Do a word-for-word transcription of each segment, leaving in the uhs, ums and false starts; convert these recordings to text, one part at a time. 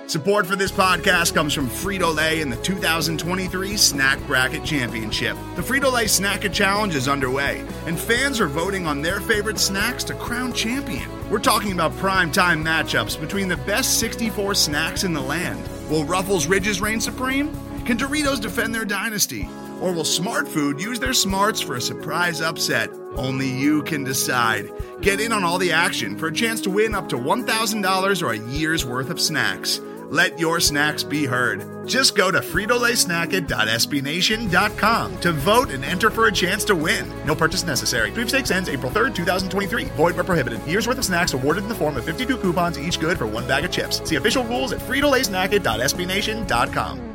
Support for this podcast comes from Frito-Lay and the two thousand twenty-three Snack Bracket Championship. The Frito-Lay Snack-It Challenge is underway, and fans are voting on their favorite snacks to crown champion. We're talking about prime-time matchups between the best sixty-four snacks in the land. Will Ruffles Ridges reign supreme? Can Doritos defend their dynasty? Or will Smart Food use their smarts for a surprise upset? Only you can decide. Get in on all the action for a chance to win up to one thousand dollars or a year's worth of snacks. Let your snacks be heard. Just go to Frito Lay Snack It dot S B Nation dot com to vote and enter for a chance to win. No purchase necessary. Sweepstakes ends April third, twenty twenty-three. Void where prohibited. Year's worth of snacks awarded in the form of fifty-two coupons, each good for one bag of chips. See official rules at Frito Lay Snack It dot S B Nation dot com.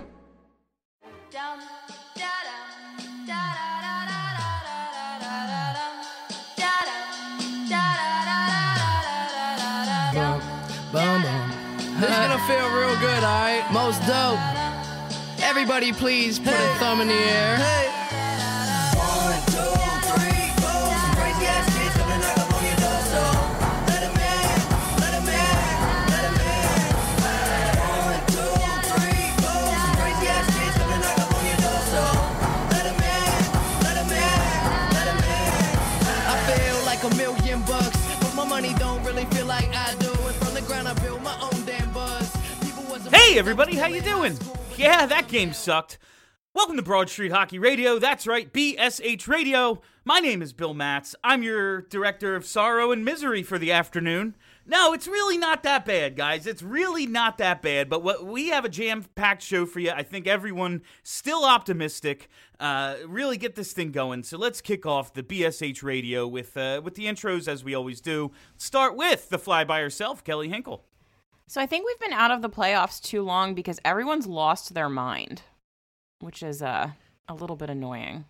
Boom, boom. This is gonna feel real good, alright? Most dope. Everybody please put hey. a thumb in the air. Hey. One, two, three, four. Some crazy ass kids coming knock up on your door, so let 'em in, let 'em in, let 'em in. One, two, three, four. Some crazy ass kids coming knock up on your door, so let 'em in, let 'em in, let 'em in. I feel like a million bucks, but my money don't really feel like I do. And from the ground I build my own damn buzz. Hey everybody, how you doing? Yeah, that game sucked. Welcome to Broad Street Hockey Radio. That's right, B S H Radio. My name is Bill Matz. I'm your director of sorrow and misery for the afternoon. No, it's really not that bad, guys. It's really not that bad, but what, we have a jam-packed show for you. I think everyone still optimistic. Uh, really get this thing going. So let's kick off the B S H Radio with, uh, with the intros as we always do. Start with the fly-by herself, Kelly Hinkle. So I think we've been out of the playoffs too long because everyone's lost their mind, which is uh, a little bit annoying.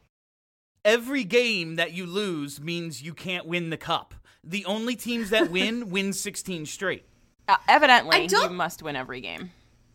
Every game that you lose means you can't win the cup. The only teams that win win sixteen straight. Uh, evidently, you must win every game.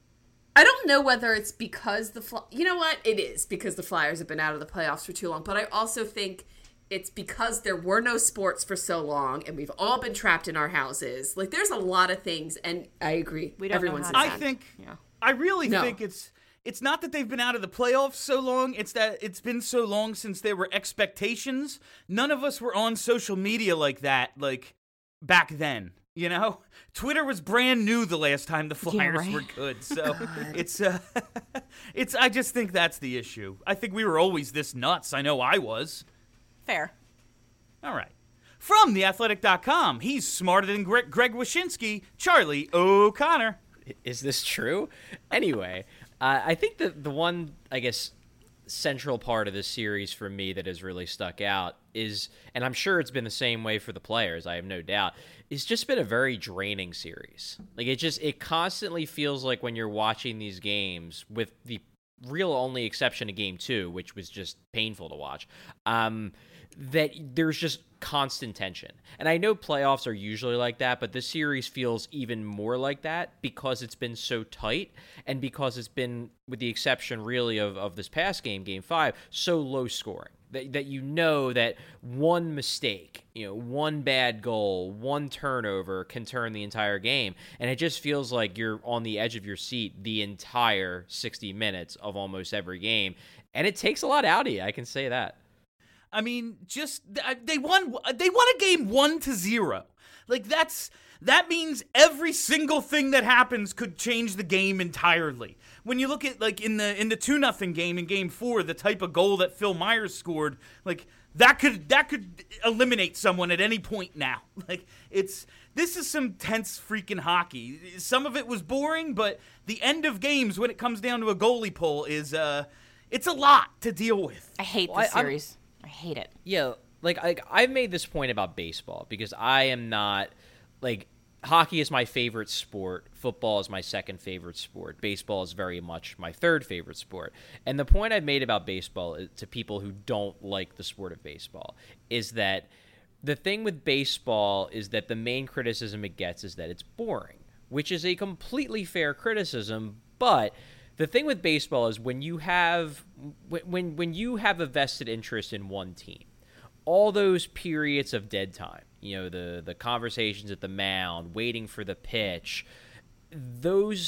I don't know whether it's because the Fly- you know what? It is because the Flyers have been out of the playoffs for too long, but I also think it's because there were no sports for so long, and we've all been trapped in our houses. Like, there's a lot of things, and I agree. We don't Everyone's know how I to think, yeah. I really No. think it's it's not that they've been out of the playoffs so long. It's that it's been so long since there were expectations. None of us were on social media like that, like, back then. You know, Twitter was brand new the last time the Flyers yeah, right. were good. So it's, uh, it's. I just think that's the issue. I think we were always this nuts. I know I was. Fair. All right. From the athletic dot com, he's smarter than Greg, Greg Wyshynski, Charlie O'Connor. Is this true? Anyway, uh, I think that the one, I guess, central part of this series for me that has really stuck out is, and I'm sure it's been the same way for the players, I have no doubt, it's just been a very draining series. Like, it just, it constantly feels like when you're watching these games, with the real only exception of game two, which was just painful to watch, um, that there's just constant tension. And I know playoffs are usually like that, but this series feels even more like that because it's been so tight and because it's been, with the exception really of, of this past game, game five, so low scoring. That, that you know that one mistake, you know, one bad goal, one turnover can turn the entire game. And it just feels like you're on the edge of your seat the entire sixty minutes of almost every game. And it takes a lot out of you, I can say that. I mean, just they won. They won a game one to zero. Like that's that means every single thing that happens could change the game entirely. When you look at like in the in the two nothing game in game four, the type of goal that Phil Myers scored, like that could that could eliminate someone at any point now. Like it's this is some tense freaking hockey. Some of it was boring, but the end of games when it comes down to a goalie pull is uh, it's a lot to deal with. I hate well, this I, series. I hate it. Yeah, like, like I've made this point about baseball because I am not, like, hockey is my favorite sport, football is my second favorite sport, baseball is very much my third favorite sport. And the point I've made about baseball to people who don't like the sport of baseball is that the thing with baseball is that the main criticism it gets is that it's boring, which is a completely fair criticism, but the thing with baseball is when you have when when you have a vested interest in one team, all those periods of dead time, you know, the the conversations at the mound, waiting for the pitch, those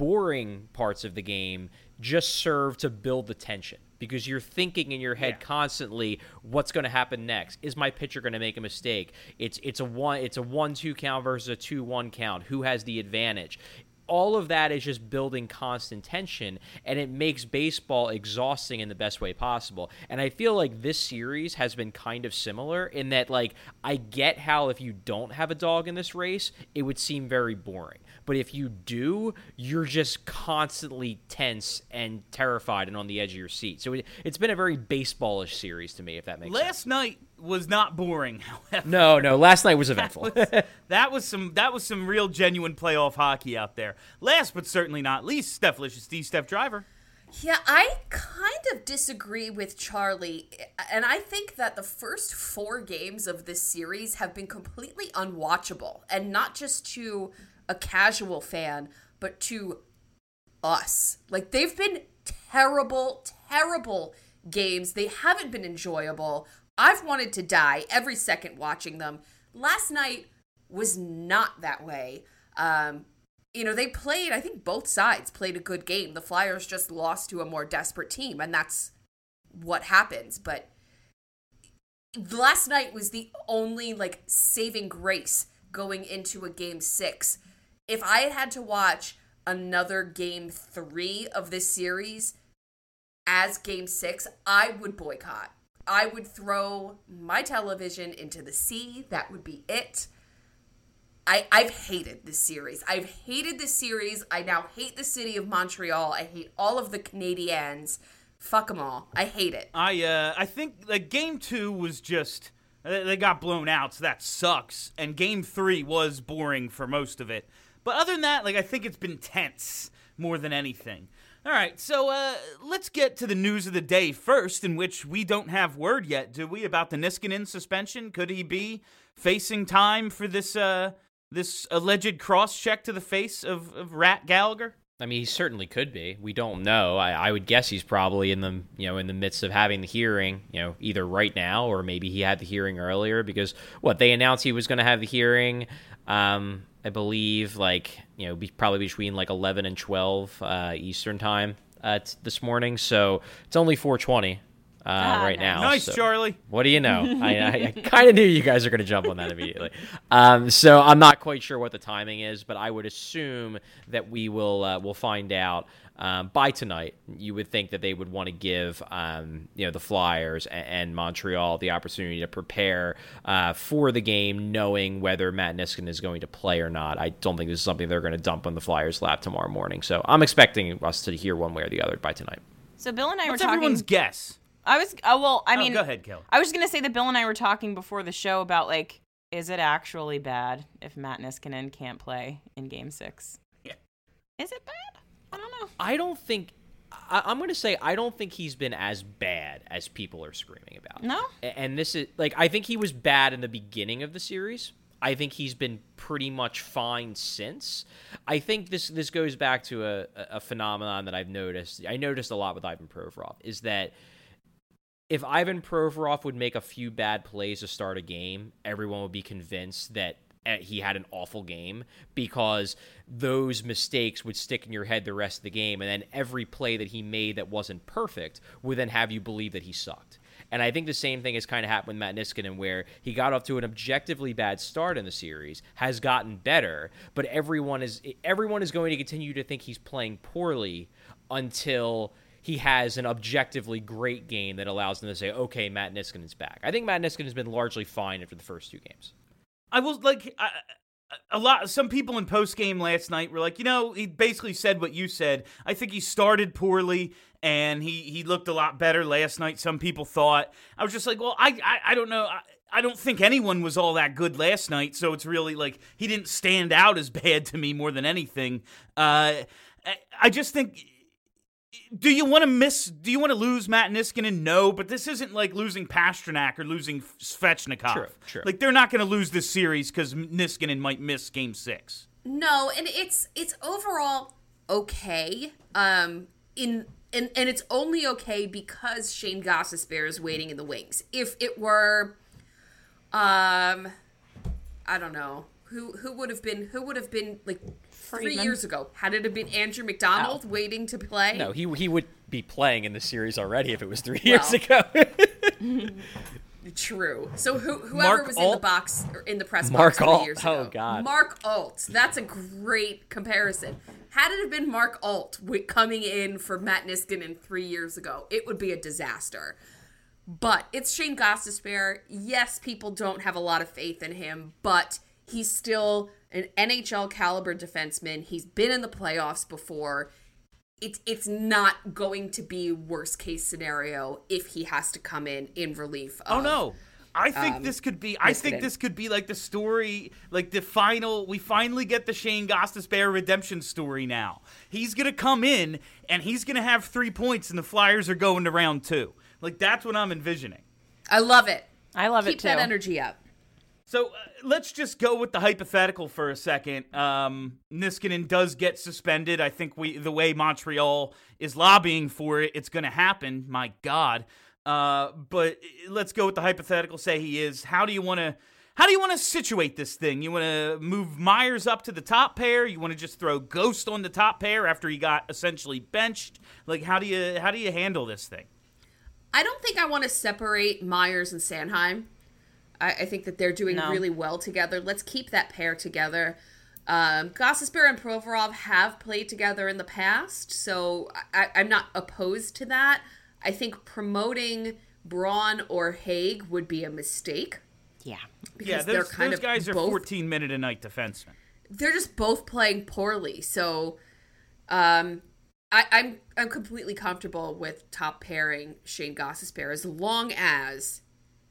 boring parts of the game just serve to build the tension, because you're thinking in your head yeah. constantly, what's going to happen next? Is my pitcher going to make a mistake? It's it's a one it's a one two count versus a two one count. Who has the advantage? All of that is just building constant tension, and it makes baseball exhausting in the best way possible. And I feel like this series has been kind of similar in that, like, I get how if you don't have a dog in this race, it would seem very boring. But if you do, you're just constantly tense and terrified and on the edge of your seat. So it, it's been a very baseball-ish series to me, if that makes Last sense. Last night was not boring, however. No, no, last night was eventful. that, was, that was some that was some real genuine playoff hockey out there. Last but certainly not least, Steph Licious D, Steph Driver. Yeah, I kind of disagree with Charlie, and I think that the first four games of this series have been completely unwatchable, and not just to a casual fan, but to us. Like, they've been terrible, terrible games. They haven't been enjoyable. I've wanted to die every second watching them. Last night was not that way. Um, you know, they played, I think both sides played a good game. The Flyers just lost to a more desperate team, and that's what happens. But last night was the only, like, saving grace going into a game six. If I had had to watch another game three of this series as game six, I would boycott. I would throw my television into the sea. That would be it. I, I've hated this series. I've hated this series. I now hate the city of Montreal. I hate all of the Canadiens. Fuck them all. I hate it. I uh, I think like game two was just, they got blown out, so that sucks. And game three was boring for most of it. But other than that, like, I think it's been tense more than anything. All right, so uh, let's get to the news of the day first, in which we don't have word yet, do we, about the Niskanen suspension? Could he be facing time for this uh, this alleged cross-check to the face of, of Rat Gallagher? I mean, he certainly could be. We don't know. I, I would guess he's probably in the you know in the midst of having the hearing, you know, either right now or maybe he had the hearing earlier, because what they announced he was going to have the hearing. Um, I believe, like, you know, be, probably between, like, eleven and twelve uh, Eastern time uh, t- this morning. So it's only four twenty uh, ah, right nice. now. Nice, so, Charlie. What do you know? I, I, I kind of knew you guys are going to jump on that immediately. Um, so I'm not quite sure what the timing is, but I would assume that we will uh, we'll find out um, by tonight. You would think that they would want to give um, you know the Flyers and, and Montreal the opportunity to prepare uh, for the game, knowing whether Matt Niskanen is going to play or not. I don't think this is something they're going to dump on the Flyers' lap tomorrow morning. So I'm expecting us to hear one way or the other by tonight. So Bill and I What's were talking. Everyone's guess. I was. Oh well. I oh, mean, go ahead, Kelly. I was going to say that Bill and I were talking before the show about, like, is it actually bad if Matt Niskanen can't play in Game Six? Yeah. Is it bad? I don't know. I don't think. I, I'm going to say I don't think he's been as bad as people are screaming about. No. And, and this is like I think he was bad in the beginning of the series. I think he's been pretty much fine since. I think this this goes back to a, a phenomenon that I've noticed. I noticed a lot with Ivan Provorov is that if Ivan Provorov would make a few bad plays to start a game, everyone would be convinced that he had an awful game, because those mistakes would stick in your head the rest of the game, and then every play that he made that wasn't perfect would then have you believe that he sucked. And I think the same thing has kind of happened with Matt Niskanen, where he got off to an objectively bad start in the series, has gotten better, but everyone is everyone is going to continue to think he's playing poorly until he has an objectively great game that allows them to say, okay, Matt Niskanen's back. I think Matt Niskanen has been largely fine after the first two games. I was like, I, a lot. Some people in post game last night were like, you know, he basically said what you said. I think he started poorly and he, he looked a lot better last night. Some people thought. I was just like, well, I I, I don't know. I, I don't think anyone was all that good last night. So it's really like he didn't stand out as bad to me more than anything. Uh, I, I just think. Do you want to miss? Do you want to lose Matt Niskanen? No, but this isn't like losing Pastrnak or losing Svechnikov. True, true. Like they're not going to lose this series because Niskanen might miss Game Six. No, and it's it's overall okay. Um, in and and it's only okay because Shane Gostisbehere is waiting in the wings. If it were, um, I don't know who who would have been who would have been like three Friedman. years ago. Had it have been Andrew McDonald Oh. waiting to play? No, he he would be playing in the series already if it was three years Well. ago. True. So who, whoever Mark was in the Alt? box or in the press Mark box three Alt. years Oh, ago. God. Mark Alt. That's a great comparison. Had it have been Mark Alt wi- coming in for Matt Niskanen three years ago, it would be a disaster. But it's Shane Gostisbehere. Yes, people don't have a lot of faith in him, but he's still an N H L caliber defenseman. He's been in the playoffs before. It's it's not going to be worst case scenario if he has to come in in relief. Oh of- no. I think um, this could be I think Niskanen. this could be like the story, like the final we finally get the Shane Gostisbehere redemption story now. He's going to come in and he's going to have three points and the Flyers are going to round two. Like that's what I'm envisioning. I love it. I love Keep it too. that energy up. So uh, let's just go with the hypothetical for a second. Um, Niskanen does get suspended. I think we, the way Montreal is lobbying for it, it's going to happen. My God. Uh, but let's go with the hypothetical. Say he is. How do you want to? How do you want to situate this thing? You want to move Myers up to the top pair? You want to just throw Ghost on the top pair after he got essentially benched? Like how do you how do you handle this thing? I don't think I want to separate Myers and Sanheim. I, I think that they're doing No. really well together. Let's keep that pair together. Um, Gostisbehere and Provorov have played together in the past, so I, I'm not opposed to that. I think promoting Braun or Haig would be a mistake. Yeah. Because Yeah, they're those, kind those of guys are both, fourteen minute a night defensemen. they're just both playing poorly. So um, I, I'm I'm completely comfortable with top pairing Shane Gostisbehere as long as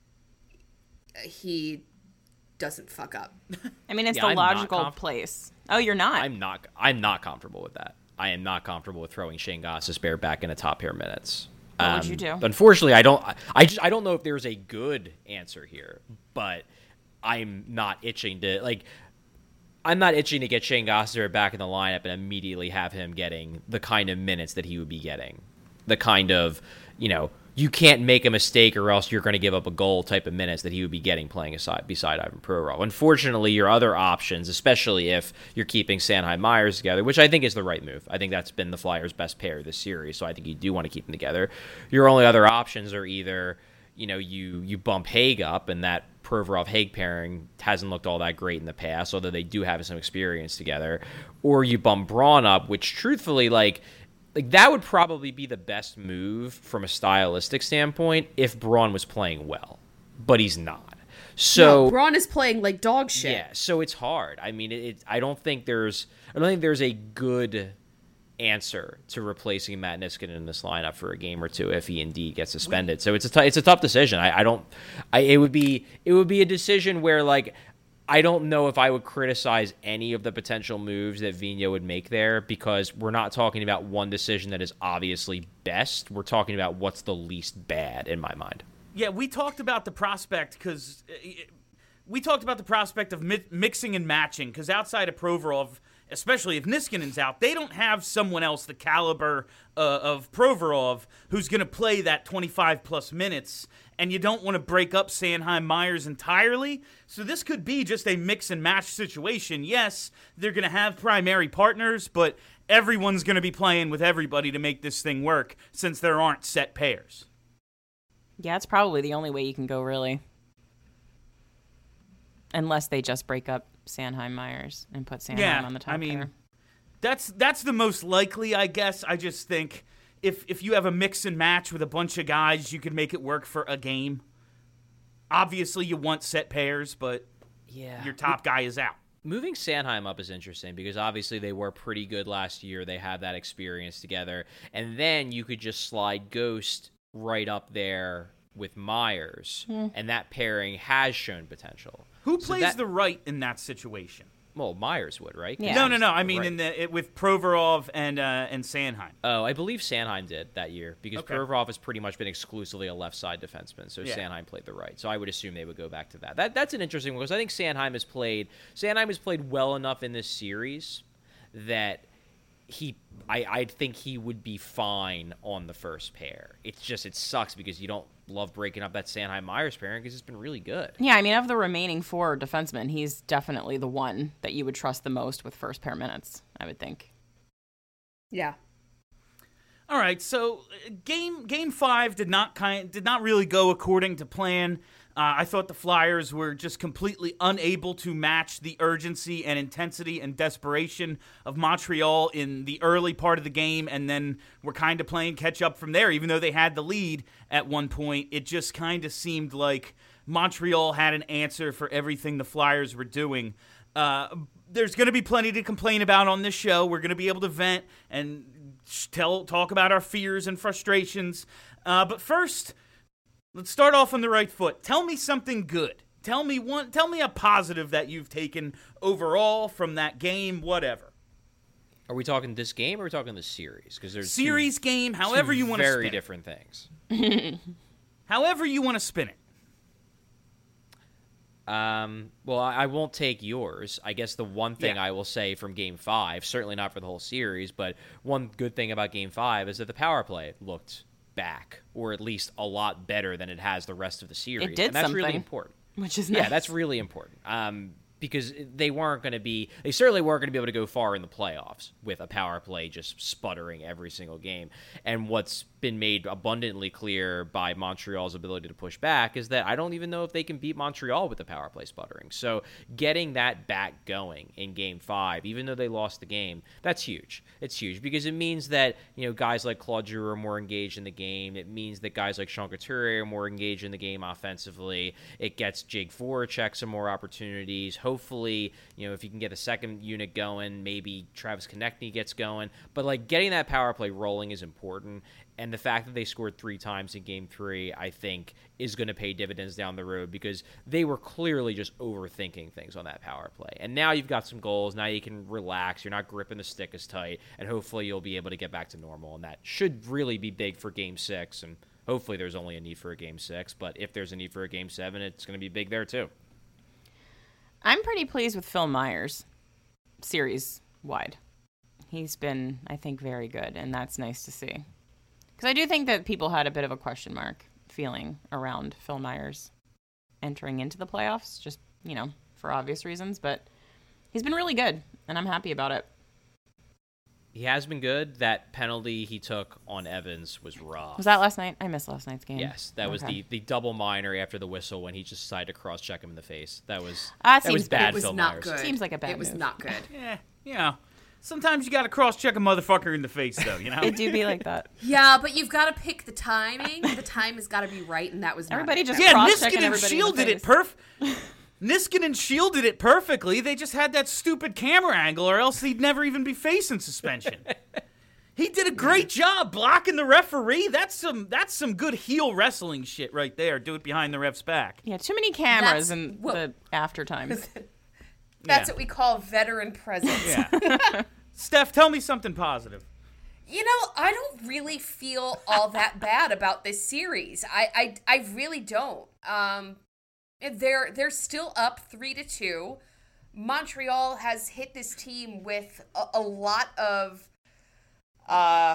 he doesn't fuck up. I mean, it's Yeah, the I'm not logical conf- place. Oh, you're not? I'm not. I'm not comfortable with that. I am not comfortable with throwing Shane Gostisbehere back into top pair minutes. What would you do? Unfortunately, I don't. I just. I don't know if there's a good answer here, but I'm not itching to like. I'm not itching to get Shane Gostisbehere back in the lineup and immediately have him getting the kind of minutes that he would be getting, the kind of, you know, you can't make a mistake or else you're going to give up a goal type of minutes that he would be getting playing aside beside Ivan Provorov. Unfortunately, your other options, especially if you're keeping Sanheim Myers together, which I think is the right move. I think that's been the Flyers' best pair this series, so I think you do want to keep them together. Your only other options are either, you know, you you bump Haig up, and that Provorov-Haig pairing hasn't looked all that great in the past, although they do have some experience together, or you bump Braun up, which truthfully, like, like that would probably be the best move from a stylistic standpoint if Braun was playing well, but he's not. So no, Braun is playing like dog shit. yeah, so it's hard. I mean, it, it. I don't think there's. I don't think there's a good answer to replacing Matt Niskanen in this lineup for a game or two if he indeed gets suspended. So it's a t- it's a tough decision. I, I don't. I it would be it would be a decision where like. I don't know if I would criticize any of the potential moves that Vigneault would make there because we're not talking about one decision that is obviously best. We're talking about what's the least bad in my mind. Yeah, we talked about the prospect because we talked about the prospect of mi- mixing and matching because outside of Provorov, especially if Niskanen's out, they don't have someone else the caliber uh, of Provorov who's going to play that twenty-five plus minutes, and you don't want to break up Sanheim Myers entirely. So this could be just a mix and match situation. Yes, they're going to have primary partners, but everyone's going to be playing with everybody to make this thing work since there aren't set pairs. Yeah, it's probably the only way you can go, really. Unless they just break up Sanheim Myers and put Sanheim Yeah, on the top I mean, pair. That's that's the most likely, I guess. I just think if if you have a mix and match with a bunch of guys, you could make it work for a game. Obviously, you want set pairs, but Yeah. your top guy is out. Moving Sanheim up is interesting because obviously they were pretty good last year. They have that experience together. And then you could just slide Ghost right up there with Myers. And that pairing has shown potential. Who So plays that- the right in that situation? Well, Myers would, right? 'Cause Yeah. No, no, he's no. I the mean, right. in the it, with Provorov and uh, and Sanheim. Oh, I believe Sanheim did that year because Okay. Provorov has pretty much been exclusively a left side defenseman, so Yeah. Sanheim played the right. So I would assume they would go back to that. That that's an interesting one because I think Sanheim has played Sanheim has played well enough in this series that he I I think he would be fine on the first pair. It's just it sucks because you don't love breaking up that Sanheim Myers pairing because it's been really good. Yeah, I mean, of the remaining four defensemen, he's definitely the one that you would trust the most with first pair minutes, I would think. Yeah. All right, so uh, game game five did not kind did not really go according to plan. Uh, I thought the Flyers were just completely unable to match the urgency and intensity and desperation of Montreal in the early part of the game, and then were kind of playing catch up from there. Even though they had the lead at one point, it just kind of seemed like Montreal had an answer for everything the Flyers were doing. Uh, there's going to be plenty to complain about on this show. We're going to be able to vent and tell talk about our fears and frustrations. Uh, but first, let's start off on the right foot. Tell me something good. Tell me one. Tell me a positive that you've taken overall from that game. Whatever. Are we talking this game or are we talking the series? Because there's series two, game. However two you want to spin very it. different things. However you want to spin it. Um, well, I, I won't take yours. I guess the one thing Yeah. I will say from Game Five, certainly not for the whole series, but one good thing about Game Five is that the power play looked back, or at least a lot better than it has the rest of the series. It did and that's something, really important. which is Yeah, nice. that's really important. Um, because they weren't going to be, they certainly weren't going to be able to go far in the playoffs with a power play just sputtering every single game. And what's been made abundantly clear by Montreal's ability to push back is that I don't even know if they can beat Montreal with the power play sputtering. So getting that back going in Game Five, even though they lost the game, that's huge. It's huge because it means that, you know, guys like Claude Giroux are more engaged in the game. It means that guys like Sean Couturier are more engaged in the game offensively. It gets Jake Voracek some more opportunities. Hopefully, you know, if you can get a second unit going, maybe Travis Konechny gets going. But, like, getting that power play rolling is important. And the fact that they scored three times in Game three, I think, is going to pay dividends down the road because they were clearly just overthinking things on that power play. And now you've got some goals. Now you can relax. You're not gripping the stick as tight. And hopefully you'll be able to get back to normal. And that should really be big for Game six. And hopefully there's only a need for a Game six. But if there's a need for a Game seven, it's going to be big there too. I'm pretty pleased with Phil Myers, series-wide. He's been, I think, very good, and that's nice to see. Because I do think that people had a bit of a question mark feeling around Phil Myers entering into the playoffs, just, you know, for obvious reasons. But he's been really good, and I'm happy about it. He has been good. That penalty he took on Evans was rough. Was that last night? I missed last night's game. Yes, that was Okay. the, the double minor after the whistle when he just decided to cross-check him in the face. That was, That that was seems bad, It was Phil not Myers. good. Seems like a bad It was move. not good. Yeah, you know. Sometimes you got to cross-check a motherfucker in the face, though, you know? It do be like that. Yeah, but you've got to pick the timing. The time has got to be right, and that was not Everybody it. just Yeah, cross-checking Niskanen everybody in the shielded it face. perf. Niskanen shielded it perfectly. They just had that stupid camera angle, or else he'd never even be facing suspension. He did a great job blocking the referee. That's some that's some good heel wrestling shit right there. Do it behind the ref's back. Yeah, too many cameras That's in what- the after times. That's Yeah. what we call veteran presence. Yeah. Steph, tell me something positive. You know, I don't really feel all that bad about this series. I, I, I really don't. Um, they're they're still up three to two. Montreal has hit this team with a, a lot of uh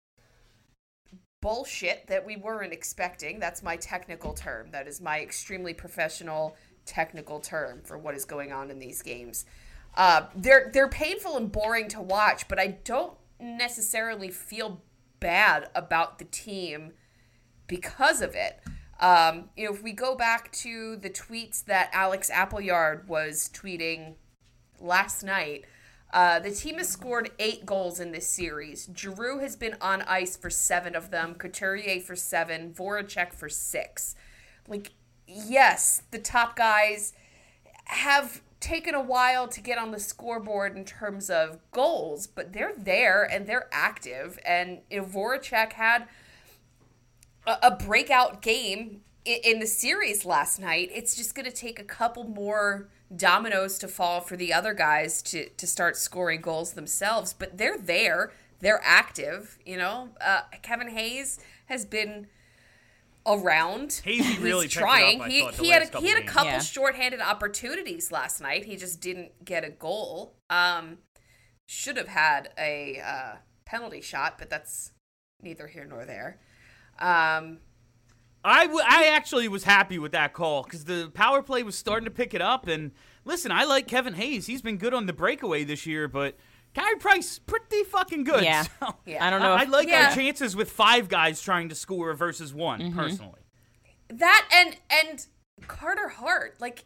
bullshit that we weren't expecting. That's my technical term. That is my extremely professional technical term for what is going on in these games. Uh, they're they're painful and boring to watch, but I don't necessarily feel bad about the team because of it. Um, you know, if we go back to the tweets that Alex Appleyard was tweeting last night, uh, the team has scored eight goals in this series. Giroux has been on ice for seven of them, Couturier for seven, Voracek for six. Like, yes, the top guys have taken a while to get on the scoreboard in terms of goals, but they're there and they're active. And you know, Voracek had a, a breakout game in, in the series last night. It's just going to take a couple more dominoes to fall for the other guys to, to start scoring goals themselves, but they're there. They're active, you know. Uh, Kevin Hayes has been around. Hazy really He's picked it trying. up, I he thought, the he had last a, he had a couple couple games. Yeah. shorthanded opportunities last night. He just didn't get a goal. Um, should have had a uh, penalty shot, but that's neither here nor there. Um, I, w- I actually was happy with that call because the power play was starting to pick it up. And listen, I like Kevin Hayes. He's been good on the breakaway this year, but Carey Price, pretty fucking good. Yeah. So, yeah. I don't know. I, If, I like yeah. our chances with five guys trying to score versus one, mm-hmm. personally. That and and Carter Hart, like,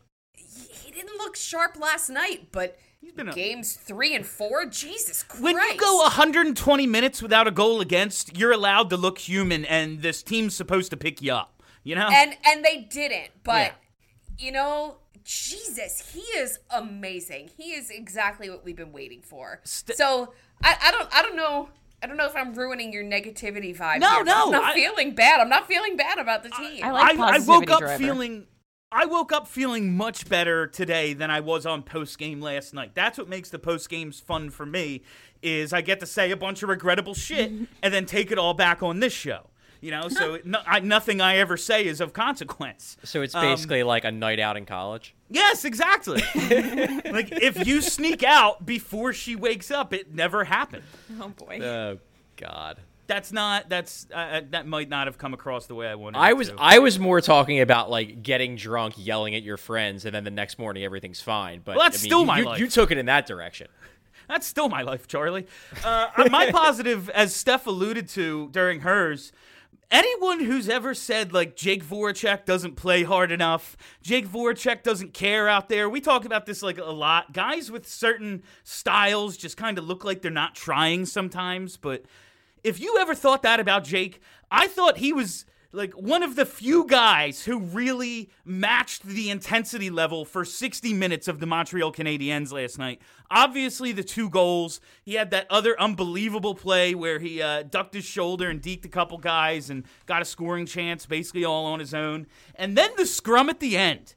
he didn't look sharp last night, but He's been a- games three and four, Jesus Christ. When you go one hundred twenty minutes without a goal against, you're allowed to look human, and this team's supposed to pick you up, you know? And and they didn't, but, Yeah. you know, Jesus, he is amazing. He is exactly what we've been waiting for. St- so, I, I don't I don't know. I don't know if I'm ruining your negativity vibe. No, here, but no, I'm not I- feeling bad. I'm not feeling bad about the team. I like I, I woke positivity up driver. feeling I woke up feeling much better today than I was on post game last night. That's what makes the post games fun for me, is I get to say a bunch of regrettable shit and then take it all back on this show. You know, so it, no, I, nothing I ever say is of consequence. So it's Um, basically like a night out in college. Yes, exactly. Like if you sneak out before she wakes up, it never happened. Oh boy. Oh God. That's not. That's uh, that might not have come across the way I wanted. I it was to. I was more talking about like getting drunk, yelling at your friends, and then the next morning everything's fine. But Well, that's I mean, still you, my you, life. you took it in that direction. That's still my life, Charlie. Uh, my positive, as Steph alluded to during hers, anyone who's ever said, like, Jake Voracek doesn't play hard enough, Jake Voracek doesn't care out there, we talk about this, like, a lot. Guys with certain styles just kind of look like they're not trying sometimes, but if you ever thought that about Jake, I thought he was like one of the few guys who really matched the intensity level for sixty minutes of the Montreal Canadiens last night. Obviously, the two goals. He had that other unbelievable play where he uh, ducked his shoulder and deked a couple guys and got a scoring chance basically all on his own. And then the scrum at the end.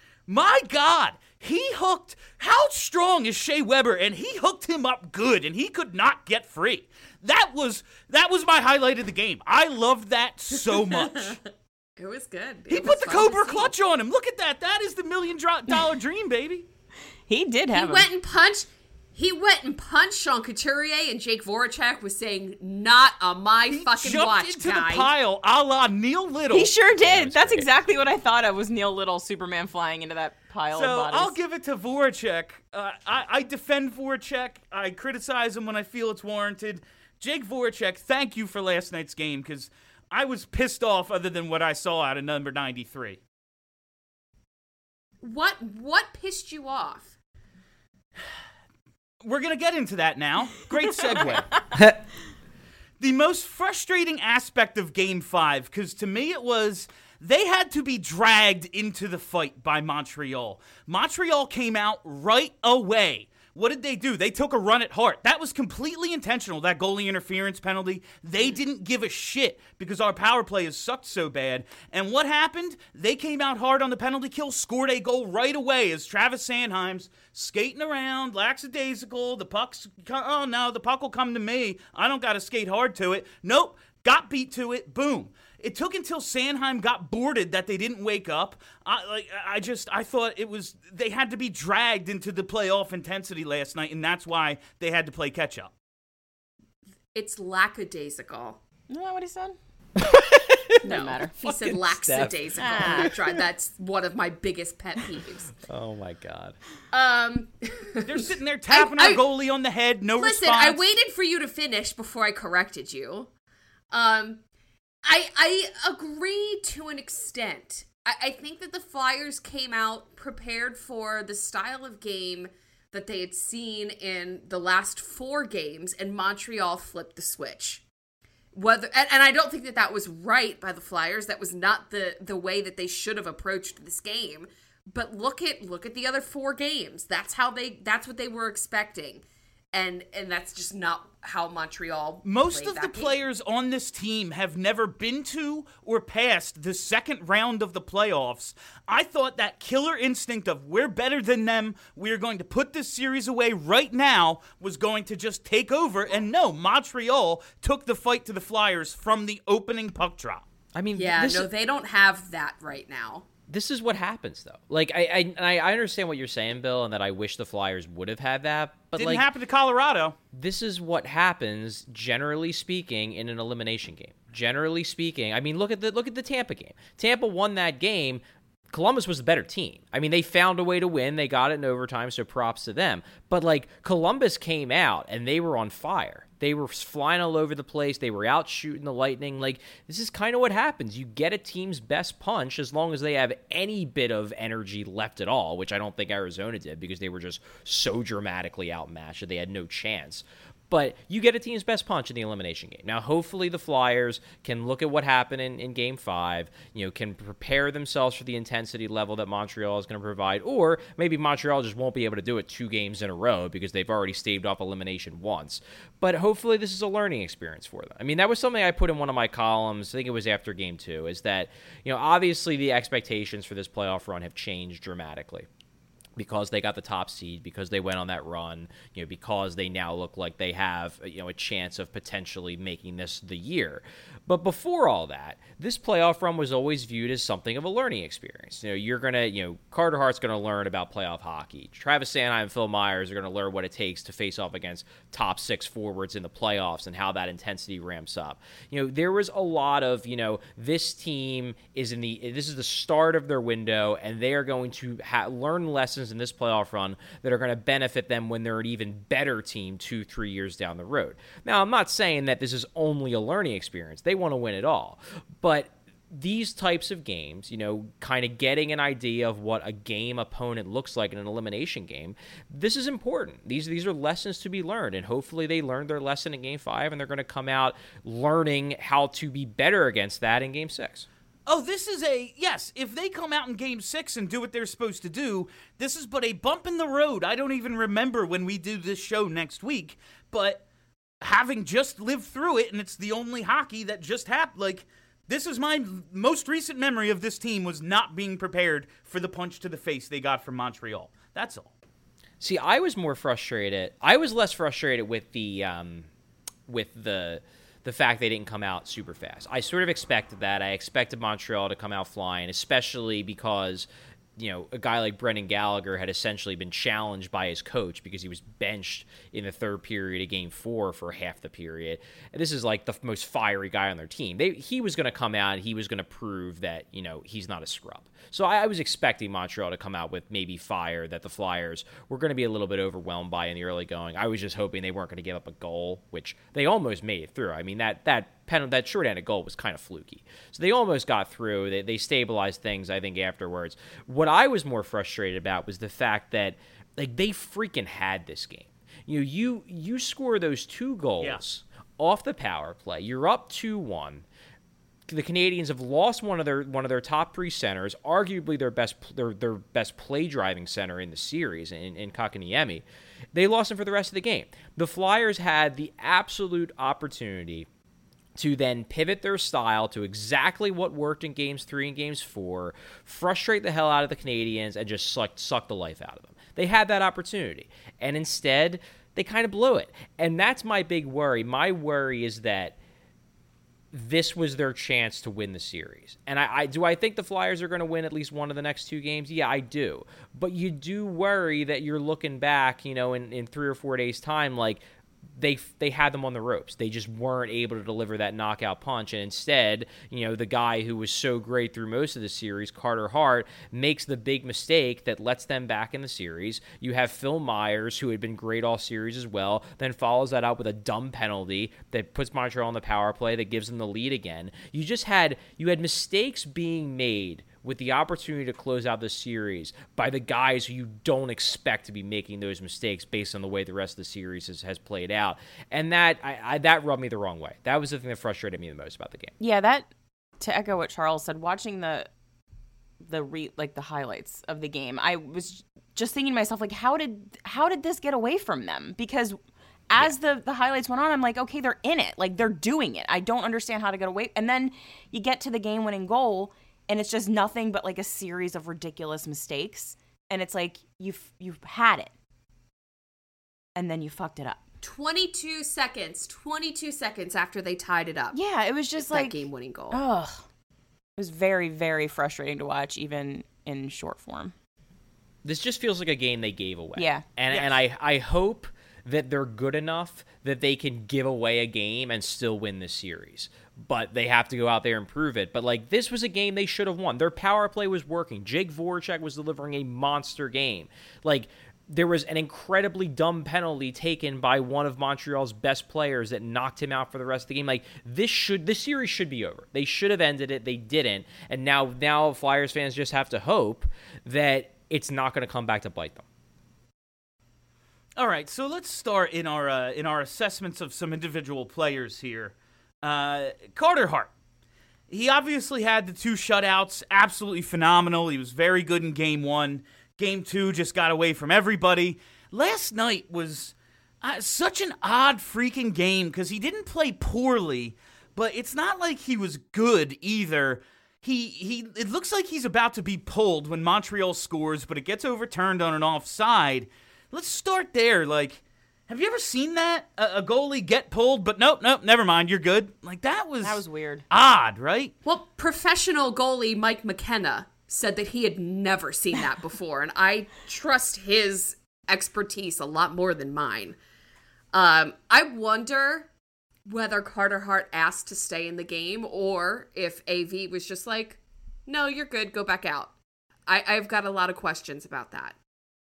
My God, he hooked. How strong is Shea Weber? And he hooked him up good, and he could not get free. That was that was my highlight of the game. I loved that so much. It was good. He It put was the fun to Cobra see. clutch on him. Look at that. That is the million dro- dollar dream, baby. He did He have him. went and punched. He went and punched Sean Couturier, and Jake Voracek was saying, "Not on my He fucking jumped watch, into guy." the pile, a la Neil Little. He sure did. was That's great. exactly what I thought of was Neil Little, Superman flying into that pile So of bodies. I'll give it to Voracek. Uh, I, I defend Voracek. I criticize him when I feel it's warranted. Jake Voracek, thank you for last night's game because I was pissed off other than what I saw out of number ninety-three. What what pissed you off? We're going to get into that now. Great segue. The most frustrating aspect of Game five, because to me it was they had to be dragged into the fight by Montreal. Montreal came out right away. What did they do? They took a run at Hart. That was completely intentional, that goalie interference penalty. They didn't give a shit because our power play has sucked so bad. And what happened? They came out hard on the penalty kill, scored a goal right away as Travis Sanheim's skating around, lackadaisical. The puck's, oh no, the puck will come to me. I don't got to skate hard to it. Nope, got beat to it. Boom. It took until Sanheim got boarded that they didn't wake up. I like I just I thought it was they had to be dragged into the playoff intensity last night, and that's why they had to play catch up. It's lackadaisical. Isn't that what he said? No, Doesn't matter. he said Fucking lackadaisical. Ah. That's right. That's one of my biggest pet peeves. Oh my God. Um, They're sitting there tapping I- our goalie on the head, no listen, response. I waited for you to finish before I corrected you. Um, I I agree to an extent. I, I think that the Flyers came out prepared for the style of game that they had seen in the last four games, and Montreal flipped the switch. Whether and, and I don't think that that was right by the Flyers. That was not the the way that they should have approached this game. But look at look at the other four games. That's how they. That's what they were expecting, and and that's just not how Montreal. Most played of the that game. players on this team have never been to or past the second round of the playoffs. I thought that killer instinct of we're better than them, we're going to put this series away right now was going to just take over. And no, Montreal took the fight to the Flyers from the opening puck drop. I mean, Yeah, this, no, they don't have that right now. this is what happens though. Like I, I, and I I understand what you're saying, Bill, and that I wish the Flyers would have had that. But Didn't like, happen to Colorado. this is what happens, generally speaking, in an elimination game. generally speaking, I mean, look at the look at the Tampa game. Tampa won that game. Columbus was the better team. I mean, they found a way to win. They got it in overtime, so props to them. But, like, Columbus came out, and they were on fire. They were flying all over the place. They were out shooting the Lightning. Like, this is kind of what happens. You get a team's best punch as long as they have any bit of energy left at all, which I don't think Arizona did because they were just so dramatically outmatched that they had no chance. But you get a team's best punch in the elimination game. Now, hopefully the Flyers can look at what happened in, in Game five, you know, can prepare themselves for the intensity level that Montreal is going to provide, or maybe Montreal just won't be able to do it two games in a row because they've already staved off elimination once. But hopefully this is a learning experience for them. I mean, that was something I put in one of my columns, I think it was after Game two, is that, you know, obviously the expectations for this playoff run have changed dramatically. Because they got the top seed, because they went on that run, you know, because they now look like they have, you know, a chance of potentially making this the year. But before all that, this playoff run was always viewed as something of a learning experience. You know, you're going to, you know, Carter Hart's going to learn about playoff hockey. Travis Sanheim and Phil Myers are going to learn what it takes to face off against top six forwards in the playoffs and how that intensity ramps up. You know, there was a lot of, you know, this team is in the, this is the start of their window, and they are going to ha- learn lessons in this playoff run that are going to benefit them when they're an even better team two, three years down the road. Now, I'm not saying that this is only a learning experience. They want to win it all. But these types of games, you know, kind of getting an idea of what a game opponent looks like in an elimination game, this is important. These, these are lessons to be learned, and hopefully they learned their lesson in Game five, and they're going to come out learning how to be better against that in Game six. Oh, this is a, yes, if they come out in Game six and do what they're supposed to do, this is but a bump in the road. I don't even remember when we do this show next week, but having just lived through it, and it's the only hockey that just happened, like, this is my most recent memory of this team was not being prepared for the punch to the face they got from Montreal. That's all. See, I was more frustrated. I was less frustrated with the, um, with the... the fact they didn't come out super fast. I sort of expected that. I expected Montreal to come out flying, especially because, you know, a guy like Brendan Gallagher had essentially been challenged by his coach because he was benched in the third period of Game four for half the period. And this is like the most fiery guy on their team. They, he was going to come out and he was going to prove that, you know, he's not a scrub. So I, I was expecting Montreal to come out with maybe fire that the Flyers were going to be a little bit overwhelmed by in the early going. I was just hoping they weren't going to give up a goal, which they almost made it through. I mean, that that pen, that shorthanded goal was kind of fluky. So they almost got through. They, they stabilized things, I think, afterwards. What I was more frustrated about was the fact that, like, they freaking had this game. You know, you, you score those two goals yeah. off the power play. You're up two one. The Canadians have lost one of their one of their top three centers, arguably their best their their best play driving center in the series, in, in Kotkaniemi. They lost him for the rest of the game. The Flyers had the absolute opportunity to then pivot their style to exactly what worked in games three and games four, frustrate the hell out of the Canadians, and just suck, suck the life out of them. They had that opportunity, and instead, they kind of blew it. And that's my big worry. My worry is that this was their chance to win the series. And I, I do I think the Flyers are going to win at least one of the next two games? Yeah, I do. But you do worry that you're looking back, you know, in, in three or four days' time, like, they they had them on the ropes. They just weren't able to deliver that knockout punch. And instead, you know, the guy who was so great through most of the series, Carter Hart, makes the big mistake that lets them back in the series. You have Phil Myers, who had been great all series as well, then follows that up with a dumb penalty that puts Montreal on the power play that gives them the lead again. You just had, you had mistakes being made with the opportunity to close out the series by the guys who you don't expect to be making those mistakes based on the way the rest of the series has, has played out. And that I, I, that rubbed me the wrong way. That was the thing that frustrated me the most about the game. Yeah, that, to echo what Charles said, watching the the re, like the highlights of the game, I was just thinking to myself, like, how did how did this get away from them? Because as yeah. the, the highlights went on, I'm like, okay, they're in it. Like, they're doing it. I don't understand how to get away. And then you get to the game-winning goal, and it's just nothing but like a series of ridiculous mistakes. And it's like, you've, you've had it. And then you fucked it up. twenty-two seconds. twenty-two seconds after they tied it up. Yeah, it was just like. That game-winning goal. Ugh. It was very, very frustrating to watch, even in short form. This just feels like a game they gave away. Yeah. And, yes. and I, I hope that they're good enough that they can give away a game and still win the series. but they have to go out there and prove it. But, like, this was a game they should have won. Their power play was working. Jake Voracek was delivering a monster game. Like, there was an incredibly dumb penalty taken by one of Montreal's best players that knocked him out for the rest of the game. Like, this should this series should be over. They should have ended it. They didn't. And now, now Flyers fans just have to hope that it's not going to come back to bite them. All right, so let's start in our uh, in our assessments of some individual players here. Uh, Carter Hart. He obviously had the two shutouts, absolutely phenomenal. He was very good in game one. Game two just got away from everybody. Last night was uh, such an odd freaking game because he didn't play poorly, but it's not like he was good either. He he. It looks like he's about to be pulled when Montreal scores, but it gets overturned on an offside. Let's start there. Like, have you ever seen that? A, a goalie get pulled, but nope, nope, never mind, you're good. Like, that was... That was weird. Odd, right? Well, professional goalie Mike McKenna said that he had never seen that before, and I trust his expertise a lot more than mine. Um, I wonder whether Carter Hart asked to stay in the game or if A V was just like, no, you're good, go back out. I, I've got a lot of questions about that.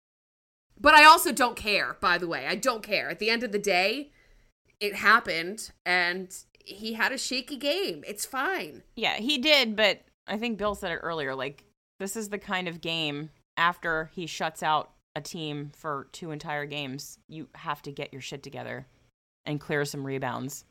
But I also don't care, by the way. I don't care. At the end of the day, it happened, and he had a shaky game. It's fine. Yeah, he did, but I think Bill said it earlier. Like, this is the kind of game, after he shuts out a team for two entire games, you have to get your shit together and clear some rebounds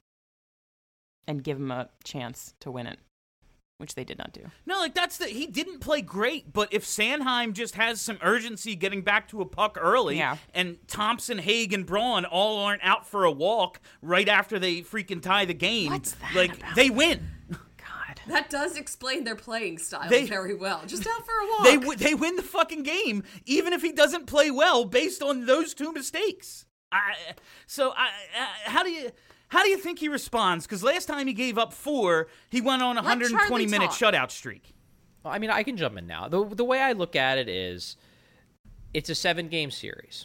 and give him a chance to win it, which they did not do. No, like, that's the... He didn't play great, but if Sanheim just has some urgency getting back to a puck early, yeah. and Thompson, Haig, and Braun all aren't out for a walk right after they freaking tie the game, What's that like, about? they win. God. That does explain their playing style They- very well. Just out for a walk. They w- they win the fucking game, even if he doesn't play well, based on those two mistakes. I, so, I, I, how do you... How do you think he responds? Because last time he gave up four, he went on a one hundred twenty minute shutout streak. Well, I mean, I can jump in now. The the way I look at it is, it's a seven-game series.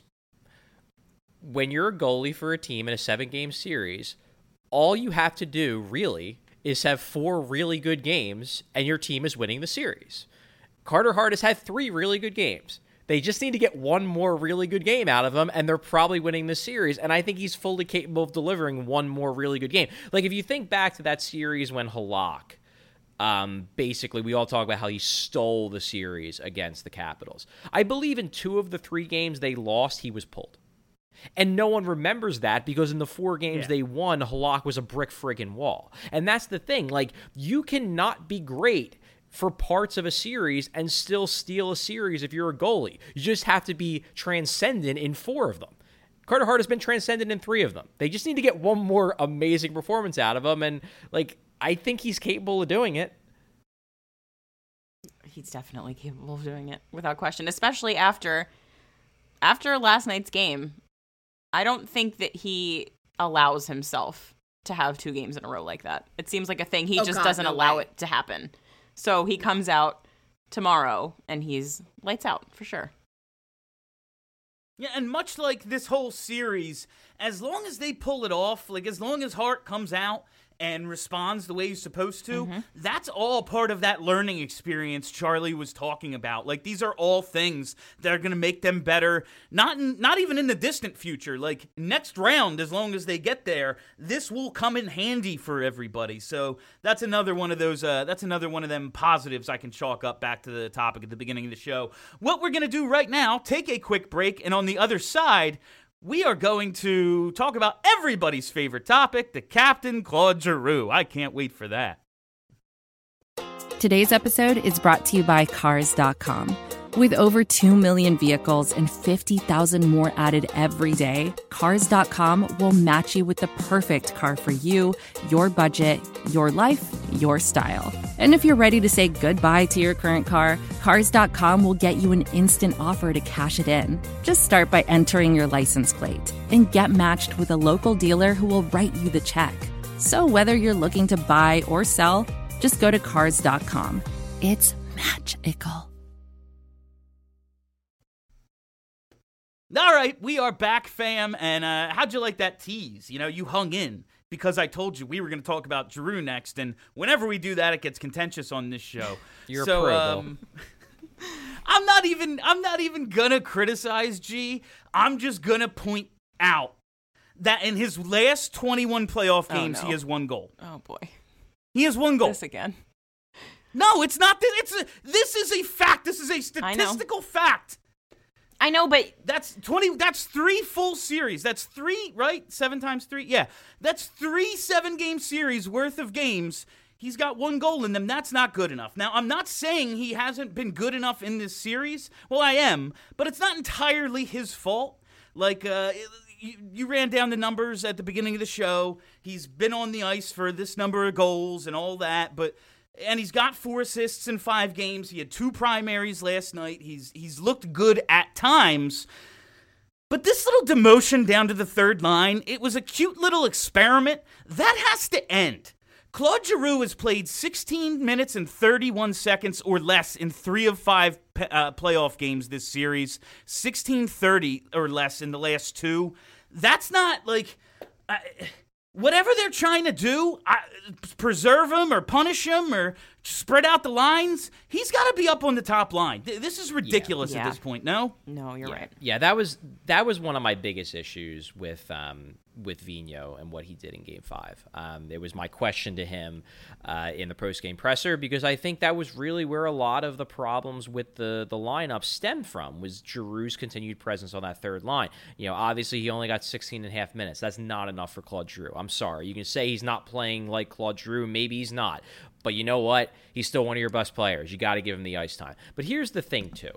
When you're a goalie for a team in a seven-game series, all you have to do, really, is have four really good games, and your team is winning the series. Carter Hart has had three really good games. They just need to get one more really good game out of him, and they're probably winning this series. And I think he's fully capable of delivering one more really good game. Like, if you think back to that series when Halak, um, basically, we all talk about how he stole the series against the Capitals. I believe in two of the three games they lost, he was pulled. And no one remembers that because in the four games Yeah. they won, Halak was a brick friggin' wall. And that's the thing. Like, you cannot be great for parts of a series and still steal a series if you're a goalie. You just have to be transcendent in four of them. Carter Hart has been transcendent in three of them. They just need to get one more amazing performance out of him, and, like, I think he's capable of doing it. He's definitely capable of doing it, without question, especially after after last night's game. I don't think that he allows himself to have two games in a row like that. It seems like a thing he Oh, just God, doesn't no allow way. it to happen. So he comes out tomorrow, and he's lights out, for sure. Yeah, and much like this whole series, as long as they pull it off, like as long as Hart comes out and responds the way he's supposed to, Mm-hmm. that's all part of that learning experience Charlie was talking about. Like, these are all things that are going to make them better, not in, not even in the distant future. Like, next round, as long as they get there, this will come in handy for everybody. So that's another one of those, uh, that's another one of them positives I can chalk up back to the topic at the beginning of the show. What we're going to do right now, take a quick break, and on the other side, we are going to talk about everybody's favorite topic, the Captain Claude Giroux. I can't wait for that. Today's episode is brought to you by Cars dot com. With over two million vehicles and fifty thousand more added every day, Cars dot com will match you with the perfect car for you, your budget, your life, your style. And if you're ready to say goodbye to your current car, Cars dot com will get you an instant offer to cash it in. Just start by entering your license plate and get matched with a local dealer who will write you the check. So whether you're looking to buy or sell, just go to Cars dot com. It's magical. All right, we are back, fam, and uh, how'd you like that tease? You know, you hung in. because I told you we were going to talk about Giroux next, and whenever we do that, it gets contentious on this show. You're so, a pro, um, I'm not even I'm not even gonna criticize G. I'm just gonna point out that in his last twenty-one playoff games, oh, no. he has one goal. Oh boy, he has one goal. This again. No, it's not. This. It's a, this is a fact. This is a statistical fact. I know, but that's twenty. That's three full series. That's three, right? Seven times three. Yeah, that's three seven-game series worth of games. He's got one goal in them. That's not good enough. Now, I'm not saying he hasn't been good enough in this series. Well, I am, but it's not entirely his fault. Like, uh, you, you ran down the numbers at the beginning of the show. He's been on the ice for this number of goals and all that, but and he's got four assists in five games. He had two primaries last night. He's he's looked good at times. But this little demotion down to the third line, it was a cute little experiment. That has to end. Claude Giroux has played sixteen minutes and thirty-one seconds or less in three of five uh, playoff games this series. sixteen thirty or less in the last two. That's not like... Uh, whatever they're trying to do, I, preserve him or punish him or spread out the lines, he's got to be up on the top line. This is ridiculous Yeah. at Yeah. this point, no? no, you're yeah. right. Yeah, that was that was one of my biggest issues with um, with Vigneault and what he did in Game Five. Um, it was my question to him uh, in the post-game presser because I think that was really where a lot of the problems with the the lineup stemmed from was Giroux's continued presence on that third line. You know, obviously he only got sixteen and a half minutes. That's not enough for Claude Giroux. I'm sorry. You can say he's not playing like Claude Giroux. Maybe he's not. But you know what? He's still one of your best players. You got to give him the ice time. But here's the thing, too.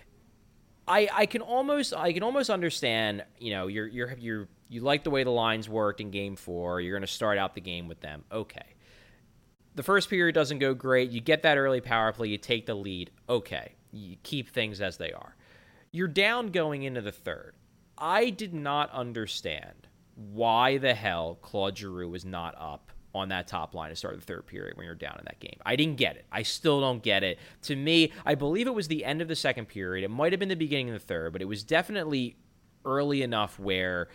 I, I can almost I can almost understand, you know, you're you're you're you like the way the lines worked in Game Four. You're going to start out the game with them. Okay. The first period doesn't go great. You get that early power play. You take the lead. Okay. You keep things as they are. You're down going into the third. I did not understand why the hell Claude Giroux was not up on that top line to start the third period when you're down in that game. I didn't get it. I still don't get it. To me, I believe it was the end of the second period. It might have been the beginning of the third, but it was definitely early enough where,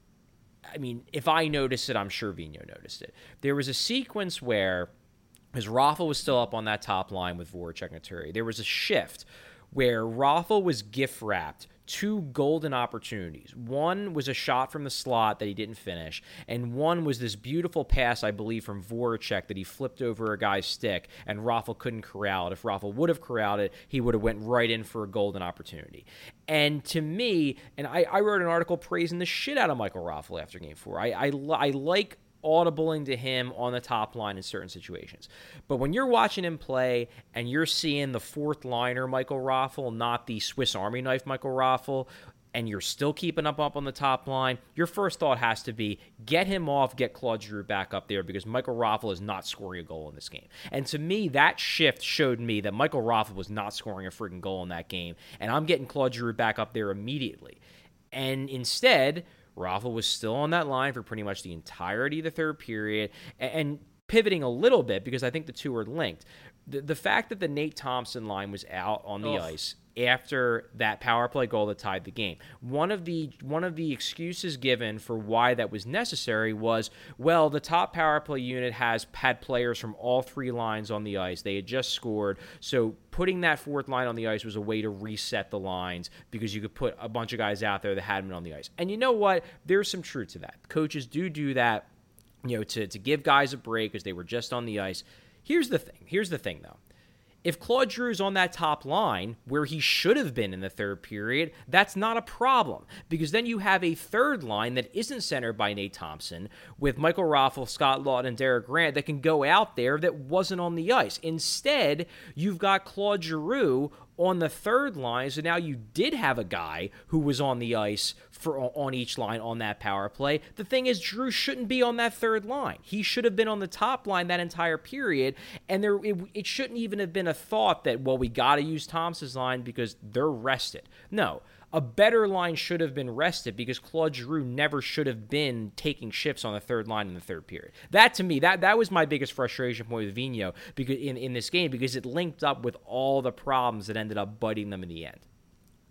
I mean, if I noticed it, I'm sure Vigneault noticed it. There was a sequence where, as Raffl was still up on that top line with Voracek and Couturier, there was a shift where Raffl was gift-wrapped two golden opportunities. One was a shot from the slot that he didn't finish, and one was this beautiful pass, I believe, from Voracek that he flipped over a guy's stick, and Raffl couldn't corral it. If Raffl would have corralled it, he would have went right in for a golden opportunity. And to me, and I, I wrote an article praising the shit out of Michael Raffl after Game four. I, I, I like audibling to him on the top line in certain situations. But when you're watching him play and you're seeing the fourth liner Michael Raffl, not the Swiss Army knife Michael Raffl, and you're still keeping up up on the top line, your first thought has to be get him off, get Claude Giroux back up there because Michael Raffl is not scoring a goal in this game. And to me, that shift showed me that Michael Raffl was not scoring a freaking goal in that game, and I'm getting Claude Giroux back up there immediately. And instead, Raffl was still on that line for pretty much the entirety of the third period, and pivoting a little bit because I think the two are linked. The, the fact that the Nate Thompson line was out on the Ugh. ice after that power play goal that tied the game. One of the one of the excuses given for why that was necessary was, well, the top power play unit has had players from all three lines on the ice. They had just scored, so putting that fourth line on the ice was a way to reset the lines because you could put a bunch of guys out there that hadn't been on the ice. And you know what? There's some truth to that. Coaches do do that, you know, to, to give guys a break because they were just on the ice. Here's the thing. Here's the thing, though. If Claude Giroux's on that top line, where he should have been in the third period, that's not a problem. Because then you have a third line that isn't centered by Nate Thompson, with Michael Raffl, Scott Laughton, and Derek Grant that can go out there that wasn't on the ice. Instead, you've got Claude Giroux on the third line, so now you did have a guy who was on the ice for on each line on that power play. The thing is, Giroux shouldn't be on that third line. He should have been on the top line that entire period, and there it, it shouldn't even have been a thought that, well, we got to use Thompson's line because they're rested. No. A better line should have been rested because Claude Giroux never should have been taking shifts on the third line in the third period. That, to me, that, that was my biggest frustration point with Vigneault because in, in this game because it linked up with all the problems that ended up biting them in the end.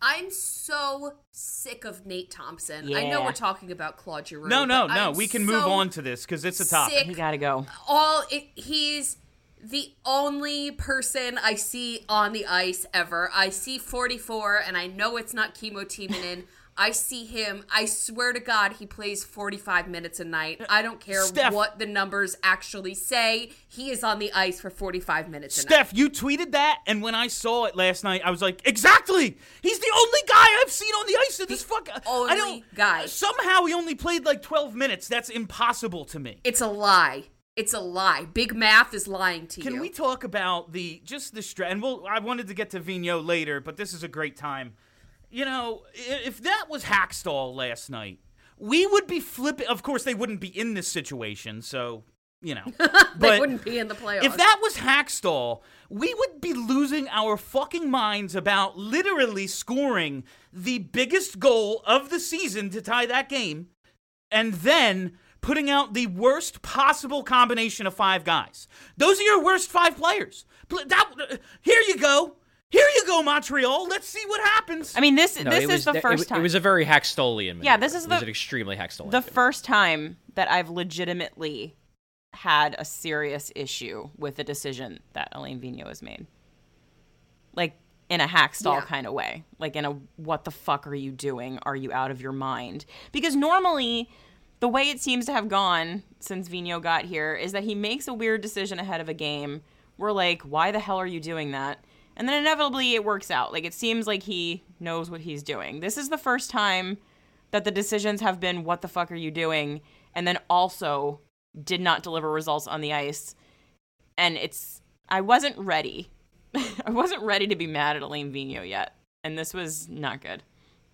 I'm so sick of Nate Thompson. Yeah. I know we're talking about Claude Giroux. No, no, but no. I'm We can so move on to this because it's a topic. sick. We gotta go. All it, he's the only person I see on the ice ever. I see forty-four, and I know it's not Kimmo Timonen. I see him. I swear to God, he plays forty-five minutes a night. I don't care Steph. what the numbers actually say. He is on the ice for forty-five minutes a night. Steph, you tweeted that, and when I saw it last night, I was like, exactly! He's the only guy I've seen on the ice in this fuck. only I don't, guy. Somehow he only played like twelve minutes. That's impossible to me. It's a lie. It's a lie. Big Math is lying to Can you. we talk about the just the stretch? And we'll, I wanted to get to Vigneault later, but this is a great time. You know, if that was Hackstall last night, we would be flipping. Of course, they wouldn't be in this situation, so, you know. they But wouldn't be in the playoffs. if that was Hackstall, we would be losing our fucking minds about literally scoring the biggest goal of the season to tie that game, and then putting out the worst possible combination of five guys. Those are your worst five players. That, here you go. Here you go, Montreal. Let's see what happens. I mean, this No, this it is was, the it first was- time. It was a very Hackstolian maneuver. Yeah, this is It was the- an extremely Hackstolian the maneuver. first time that I've legitimately had a serious issue with the decision that Alain Vigneault has made. Like, in a Hackstall Yeah. kind of way. Like, in a, what the fuck are you doing? Are you out of your mind? Because normally, the way it seems to have gone since Vigneault got here is that he makes a weird decision ahead of a game. We're like, why the hell are you doing that? And then inevitably it works out. Like, it seems like he knows what he's doing. This is the first time that the decisions have been, what the fuck are you doing? And then also did not deliver results on the ice. And it's, I wasn't ready. I wasn't ready to be mad at Alain Vigneault yet. And this was not good.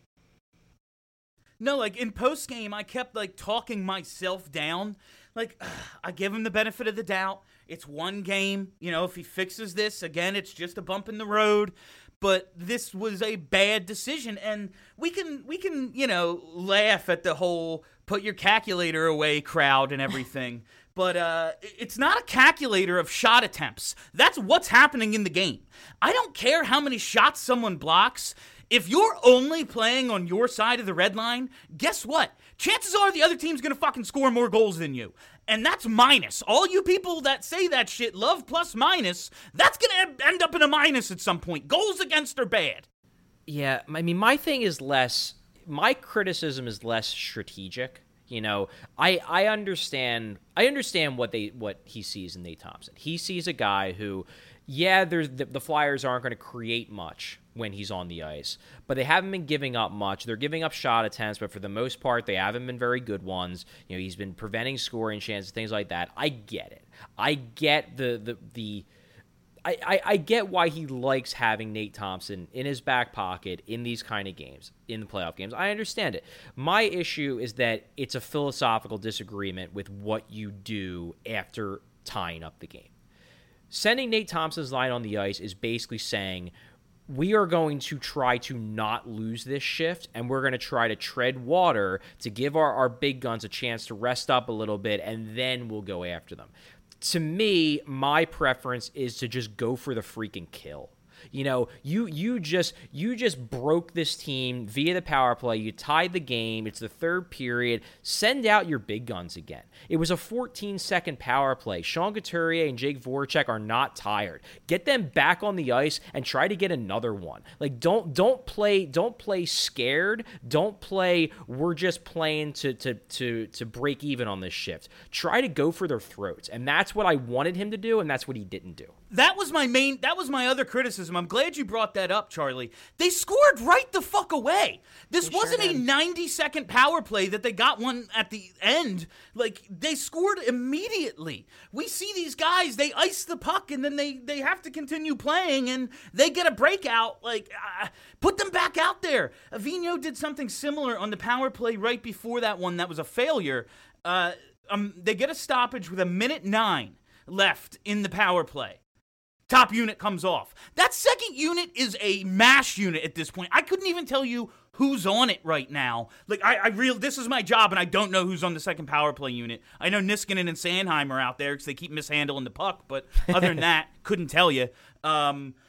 No, like in post game, I kept like talking myself down. Like, ugh, I give him the benefit of the doubt. It's one game. You know, if he fixes this, again, it's just a bump in the road. But this was a bad decision. And we can, we can, you know, laugh at the whole put your calculator away crowd and everything. But uh, it's not a calculator of shot attempts. That's what's happening in the game. I don't care how many shots someone blocks. If you're only playing on your side of the red line, guess what? Chances are the other team's going to fucking score more goals than you. And that's minus. All you people that say that shit love plus minus, that's going to end up in a minus at some point. Goals against are bad. Yeah, I mean, my thing is less, my criticism is less strategic. You know, I I understand I understand what they what he sees in Nate Thompson. He sees a guy who, yeah, there's the, the Flyers aren't going to create much when he's on the ice, but they haven't been giving up much. They're giving up shot attempts, but for the most part, they haven't been very good ones. You know, he's been preventing scoring chances, things like that. I get it. I get the the the. I, I, I get why he likes having Nate Thompson in his back pocket in these kind of games, in the playoff games. I understand it. My issue is that it's a philosophical disagreement with what you do after tying up the game. Sending Nate Thompson's line on the ice is basically saying, we are going to try to not lose this shift, and we're going to try to tread water to give our, our big guns a chance to rest up a little bit, and then we'll go after them. To me, my preference is to just go for the freaking kill. You know, you you just you just broke this team via the power play. You tied the game. It's the third period. Send out your big guns again. It was a fourteen-second power play. Sean Couturier and Jake Voracek are not tired. Get them back on the ice and try to get another one. Like don't don't play don't play scared. Don't play we're just playing to to to to break even on this shift. Try to go for their throats. And that's what I wanted him to do, and that's what he didn't do. That was my main, that was my other criticism. I'm glad you brought that up, Charlie. They scored right the fuck away. This They wasn't sure a did. ninety-second power play that they got one at the end. Like, they scored immediately. We see these guys, they ice the puck, and then they, they have to continue playing, and they get a breakout. Like, uh, put them back out there. Vigneault did something similar on the power play right before that one that was a failure. Uh, um, they get a stoppage with a minute nine left in the power play. Top unit comes off. That second unit is a MASH unit at this point. I couldn't even tell you who's on it right now. Like, I, I real this is my job, and I don't know who's on the second power play unit. I know Niskanen and Sanheim are out there because they keep mishandling the puck, but other than that, couldn't tell you. Um,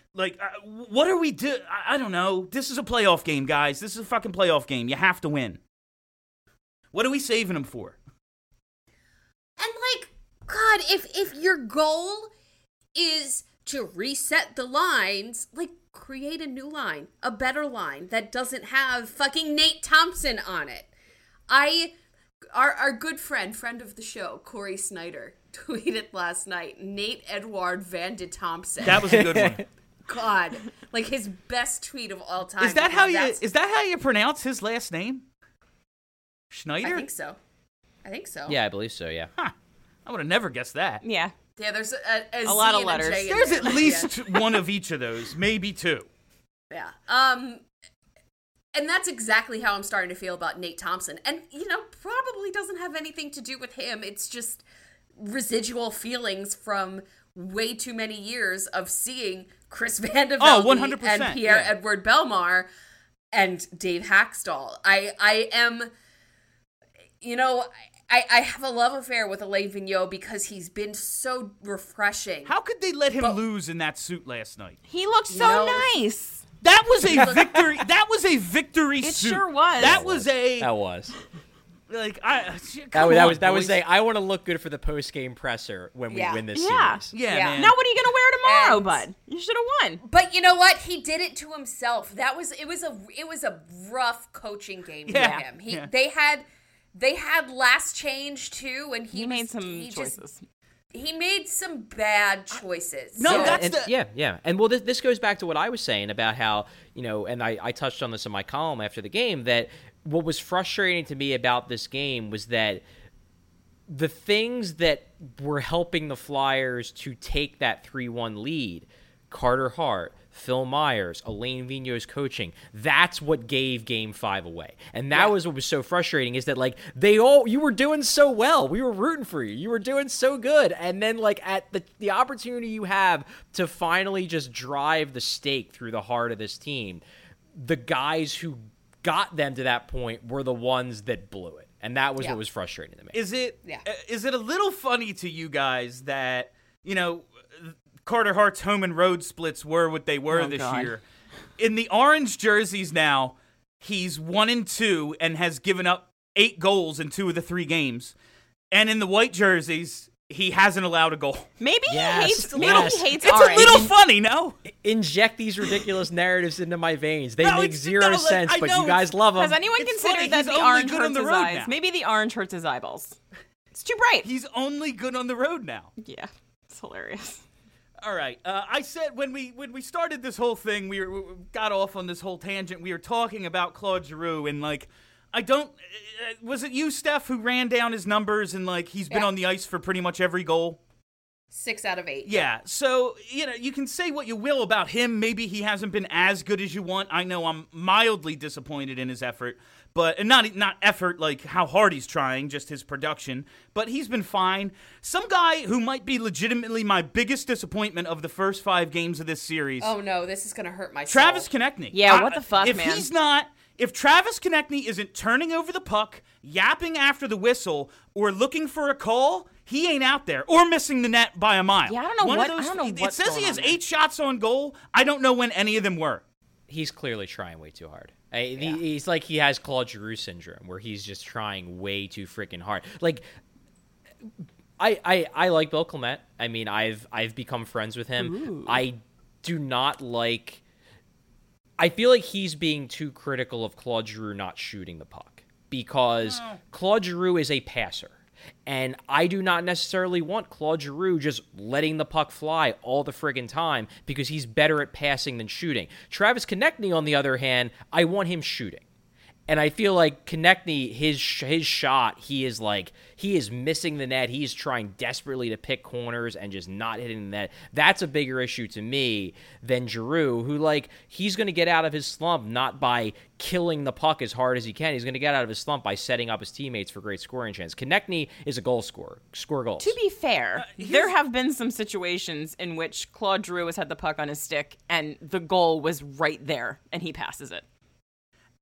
Like, uh, what are we do? I, I don't know. This is a playoff game, guys. This is a fucking playoff game. You have to win. What are we saving them for? And like, God, if if your goal is to reset the lines, like create a new line, a better line that doesn't have fucking Nate Thompson on it. I, our our good friend, friend of the show, Corey Snyder, tweeted last night, Nate Edward Van de Thompson. That was a good one. God, like his best tweet of all time. Is that how you? That's- Is that how you pronounce his last name? Schneider? I think so. I think so. Yeah, I believe so, yeah. Huh. I would have never guessed that. Yeah. Yeah, there's a, a, A lot of Z and letters. J in There's there. at least one of each of those, maybe two. Yeah. Um, and that's exactly how I'm starting to feel about Nate Thompson. And, you know, probably doesn't have anything to do with him. It's just residual feelings from way too many years of seeing Chris Van de Oh, Velde one hundred percent, and Pierre yeah. Edward Belmar and Dave Hackstall. I, I am, you know... I, I have a love affair with Alain Vigneault because he's been so refreshing. How could they let him But- lose in that suit last night? He looked so know- nice. That was a victory. That was a victory It suit. sure was. That was a That was. like I. That Come was that on, was that was boys. saying I want to look good for the post game presser when we Yeah. win this Yeah. series. Yeah, Yeah. man. Now what are you gonna wear tomorrow, And- bud? You should have won. But you know what? He did it to himself. That was it was a it was a rough coaching game Yeah. for him. He Yeah. they had they had last change too, and he, He made was- some he just- choices. he made some bad choices. No, So- Yeah, that's and, the- yeah, yeah. And well, this, this goes back to what I was saying about how, you know, and I, I touched on this in my column after the game, that what was frustrating to me about this game was that the things that were helping the Flyers to take that three one lead, Carter Hart, Phil Myers, Alain Vigneault's coaching, that's what gave game five away. And that Yeah. was what was so frustrating, is that, like, they all, you were doing so well. We were rooting for you. You were doing so good. And then, like, at the, the opportunity you have to finally just drive the stake through the heart of this team, the guys who got them to that point were the ones that blew it. And that was Yeah. what was frustrating to me. Is it? Yeah. uh, Is it a little funny to you guys that you know Carter Hart's home and road splits were what they were Oh, this God. year? In the orange jerseys now, he's one and two and has given up eight goals in two of the three games, and in the white jerseys, he hasn't allowed a goal. Maybe Yes, he hates. Maybe yes. he hates It's orange. a little funny, no? Inject these ridiculous narratives into my veins. They No, make it's- zero no, like, sense, I but know you guys it's- love them. Has anyone It's considered funny, that he's the only orange good on hurts the his road eyes? now. Maybe the orange hurts his eyeballs. It's too bright. He's only good on the road now. Yeah, it's hilarious. All right. Uh, I said when we when we started this whole thing, we, were, we got off on this whole tangent. We were talking about Claude Giroux, and like, I don't. Uh, was it you, Steph, who ran down his numbers and like he's been Yeah. on the ice for pretty much every goal? Six out of eight. Yeah. So you know you can say what you will about him. Maybe he hasn't been as good as you want. I know I'm mildly disappointed in his effort, but and not not effort like how hard he's trying, just his production. But he's been fine. Some guy who might be legitimately my biggest disappointment of the first five games of this series. Oh no, this is gonna hurt my Travis soul. Konechny. Yeah, what the fuck, if man? he's not, if Travis Konechny isn't turning over the puck, yapping after the whistle, or looking for a call, he ain't out there, or missing the net by a mile. Yeah, I don't know One what- Of those, I don't know it what's says he going has on there. eight shots on goal. I don't know when any of them were. He's clearly trying way too hard. I, he, he's like he has Claude Giroux syndrome, where he's just trying way too freaking hard. Like, I, I I like Bill Clement. I mean, I've I've become friends with him. I do not like. I feel like he's being too critical of Claude Giroux not shooting the puck, because Claude Giroux is a passer. And I do not necessarily want Claude Giroux just letting the puck fly all the friggin' time, because he's better at passing than shooting. Travis Konechny, on the other hand, I want him shooting. And I feel like Konechny, his his shot, he is like, he is missing the net. He is trying desperately to pick corners and just not hitting the net. That's a bigger issue to me than Giroux, who, like, he's going to get out of his slump not by killing the puck as hard as he can. He's going to get out of his slump by setting up his teammates for great scoring chance. Konechny is a goal scorer. Score goals. To be fair, there have been some situations in which Claude Giroux has had the puck on his stick and the goal was right there and he passes it.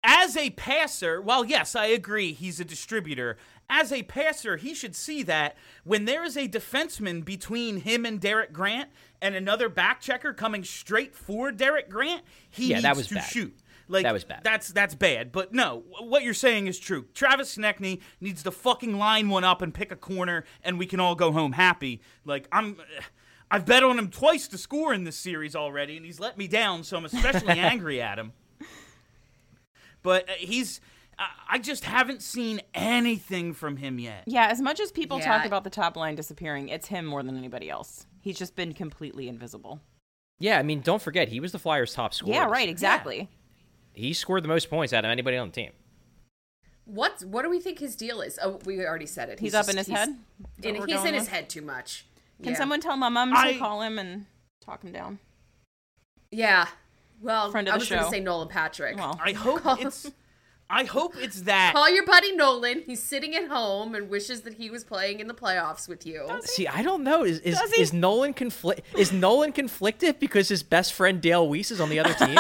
as a passer, while yes, I agree he's a distributor, as a passer, he should see that when there is a defenseman between him and Derek Grant and another back checker coming straight for Derek Grant, he Yeah, needs that was to bad. shoot. Like, That was bad. That's that's bad. But no, what you're saying is true. Travis Konechny needs to fucking line one up and pick a corner, and we can all go home happy. Like, I'm, I've bet on him twice to score in this series already, and he's let me down, so I'm especially angry at him. But uh, he's, uh, I just haven't seen anything from him yet. Yeah, as much as people Yeah. talk about the top line disappearing, it's him more than anybody else. He's just been completely invisible. Yeah, I mean, don't forget, he was the Flyers' top scorer. Yeah, right, exactly. He scored the most points out of anybody on the team. What what do we think his deal is? Oh, we already said it. He's, up in just- his he's- head? Is that In, what we're he's going in his with? head too much. Can Yeah. someone tell my mom I- to call him and talk him down? Yeah. Well, Friend of I the was going to show. say Nolan Patrick. Well, I hope it's, I hope it's that. Call your buddy Nolan. He's sitting at home and wishes that he was playing in the playoffs with you. See, I don't know. Is is, Does he? is Nolan conflict? Is Nolan conflicted because his best friend Dale Weiss is on the other team?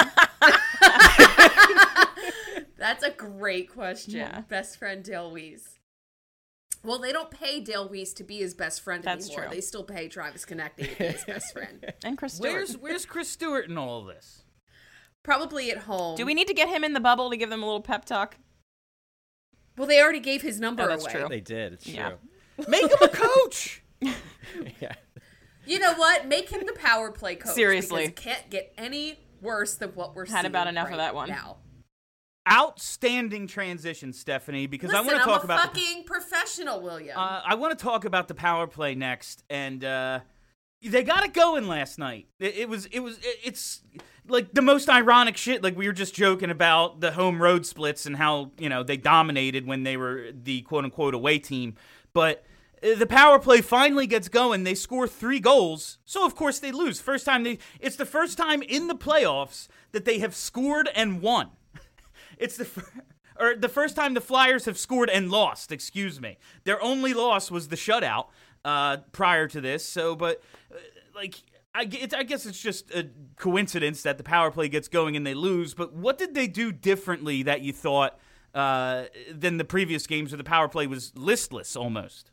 That's a great question. Yeah. Best friend Dale Weiss. Well, they don't pay Dale Weiss to be his best friend That's anymore. true. They still pay Travis Konechny to be his best friend. and Chris Stewart. Where's Where's Chris Stewart in all of this? Probably at home. Do we need to get him in the bubble to give them a little pep talk? Well, they already gave his number Oh, that's away. true. They did. It's Yeah. true. Make him a coach. Yeah. You know what? Make him the power play coach. Seriously. Because it can't get any worse than what we're seeing Had about enough of right that one. now. Outstanding transition, Stephanie, because Listen, I want to talk I'm a about the, fucking professional, William. uh, I want to talk about the power play next, and uh, they got it going last night. It, it was it was it, it's like the most ironic shit. Like we were just joking about the home road splits and how you know they dominated when they were the quote unquote away team, but. uh, The power play finally gets going. They score three goals, so of course they lose. First time they, it's the first time in the playoffs that they have scored and won. It's the fir- or the first time the Flyers have scored and lost. Excuse me. Their only loss was the shutout uh, prior to this. So, but uh, like, I, g- it's, I guess it's just a coincidence that the power play gets going and they lose. But what did they do differently that you thought uh, than the previous games where the power play was listless almost?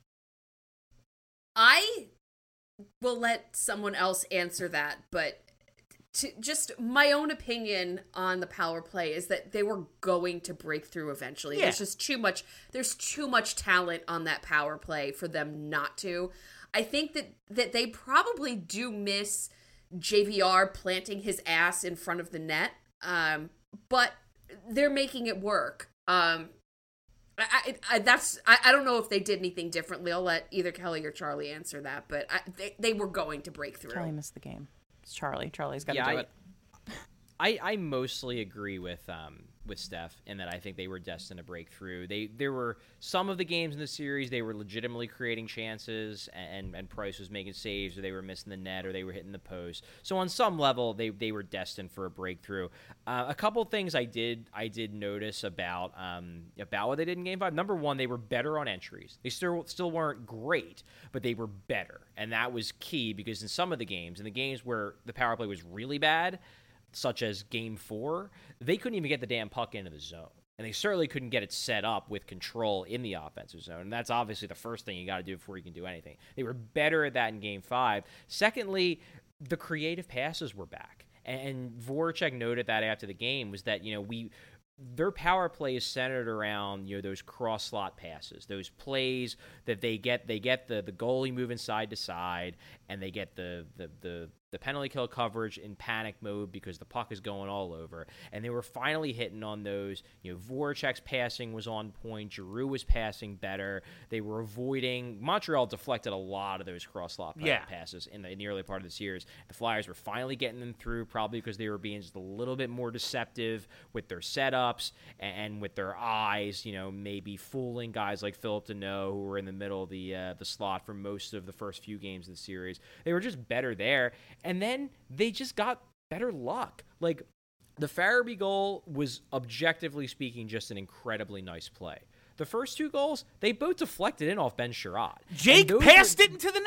I will let someone else answer that, but to, just my own opinion on the power play is that they were going to break through eventually. Yeah. There's just too much. There's too much talent on that power play for them not to. I think that that they probably do miss J V R planting his ass in front of the net, um, but they're making it work. Um, I, I, that's I, I don't know if they did anything differently. I'll let either Kelly or Charlie answer that, but I, they they were going to break through. Charlie missed the game. It's Charlie. Charlie's got to Yeah, do I- it. I, I mostly agree with um with Steph in that I think they were destined to break through. They there were some of the games in the series they were legitimately creating chances and and Price was making saves or they were missing the net or they were hitting the post. So on some level they they were destined for a breakthrough. Uh, a couple things I did I did notice about um about what they did in game five. Number one, they were better on entries. They still still weren't great, but they were better, and that was key because in some of the games, in the games where the power play was really bad, such as game four, they couldn't even get the damn puck into the zone. And they certainly couldn't get it set up with control in the offensive zone. And that's obviously the first thing you got to do before you can do anything. They were better at that in game five. Secondly, the creative passes were back. And Voracek noted that after the game was that, you know, we their power play is centered around, you know, those cross slot passes, those plays that they get they get the the goalie moving side to side and they get the the the the penalty kill coverage in panic mode because the puck is going all over. And they were finally hitting on those. You know, Voracek's passing was on point. Giroux was passing better. They were avoiding. Montreal deflected a lot of those cross-slot Yeah. passes in the, in the early part of the series. The Flyers were finally getting them through, probably because they were being just a little bit more deceptive with their setups and, and with their eyes, you know, maybe fooling guys like Philip Deneau, who were in the middle of the, uh, the slot for most of the first few games of the series. They were just better there. And then they just got better luck. Like, the Farabee goal was, objectively speaking, just an incredibly nice play. The first two goals, they both deflected in off Ben Sherrod. Jake And those passed were- it into the net.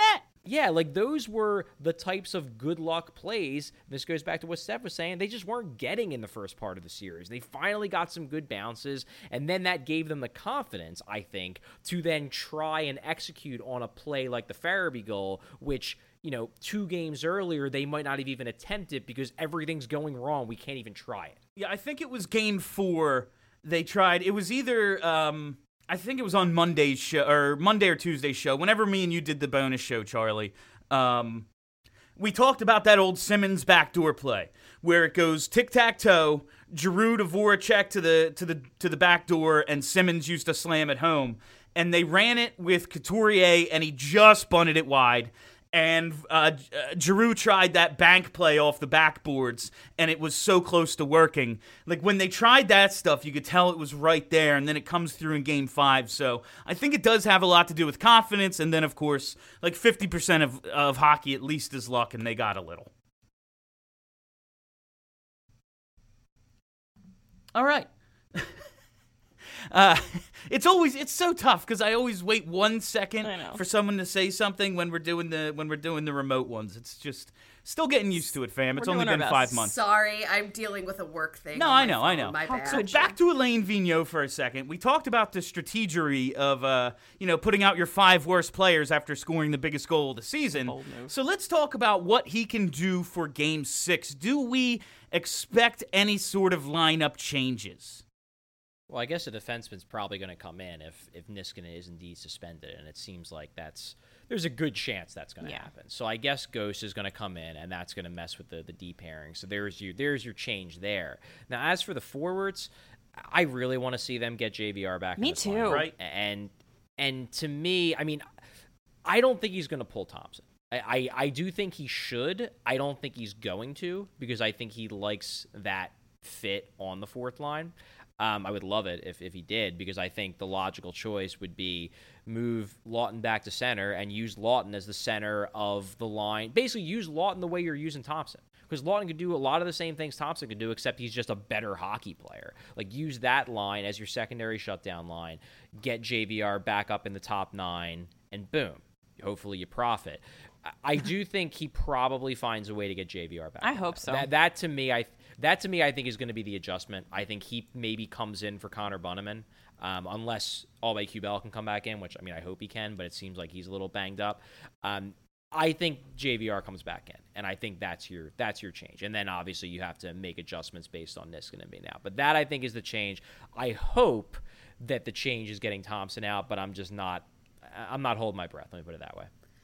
Yeah, like those were the types of good luck plays. This goes back to what Steph was saying. They just weren't getting in the first part of the series. They finally got some good bounces, and then that gave them the confidence, I think, to then try and execute on a play like the Farabee goal, which, you know, two games earlier, they might not have even attempted because everything's going wrong. We can't even try it. Yeah, I think it was game four. They tried. It was either... Um, I think it was on Monday's show, or Monday or Tuesday's show, whenever me and you did the bonus show, Charlie. Um, we talked about that old Simmons backdoor play, where it goes tic-tac-toe, Giroux to Voracek to the to the to the back door, and Simmons used to slam it home. And they ran it with Couturier, and he just bunted it wide. And uh, Giroux tried that bank play off the backboards, and it was so close to working. Like, when they tried that stuff, you could tell it was right there, and then it comes through in game five. So I think it does have a lot to do with confidence, and then, of course, like fifty percent of, of hockey at least is luck, and they got a little. All right. Uh, it's always it's so tough because I always wait one second for someone to say something when we're doing the when we're doing the remote ones. It's just still getting used to it, fam. It's We're only doing been our five best. months. Sorry, I'm dealing with a work thing. No, on I my know, I phone, know. My bad. So back to Elaine Vigneault for a second. We talked about the strategery of, uh, you know, putting out your five worst players after scoring the biggest goal of the season. So let's talk about what he can do for Game Six. Do we expect any sort of lineup changes? Well, I guess a defenseman's probably going to come in if, if Niskanen is indeed suspended, and it seems like that's there's a good chance that's going to Yeah. happen. So I guess Ghost is going to come in, and that's going to mess with the, the D pairing. So there's your there's your change there. Now, as for the forwards, I really want to see them get J V R back. Me in this too. lineup. Right. And and to me, I mean, I don't think he's going to pull Thompson. I, I, I do think he should. I don't think he's going to because I think he likes that fit on the fourth line. Um, I would love it if, if he did, because I think the logical choice would be move Lawton back to center and use Lawton as the center of the line. Basically, use Lawton the way you're using Thompson, because Lawton could do a lot of the same things Thompson could do, except he's just a better hockey player. Like, use that line as your secondary shutdown line, get J V R back up in the top nine, and boom, hopefully you profit. I do think he probably finds a way to get J V R back. I hope so. That, that to me, I that to me, I think is going to be the adjustment. I think he maybe comes in for Connor Bunnaman, um, unless Albe Kubel can come back in, which I mean I hope he can, but it seems like he's a little banged up. Um, I think J V R comes back in, and I think that's your that's your change. And then obviously you have to make adjustments based on Niskanen being out. But that I think is the change. I hope that the change is getting Thompson out, but I'm just not. I'm not holding my breath. Let me put it that way.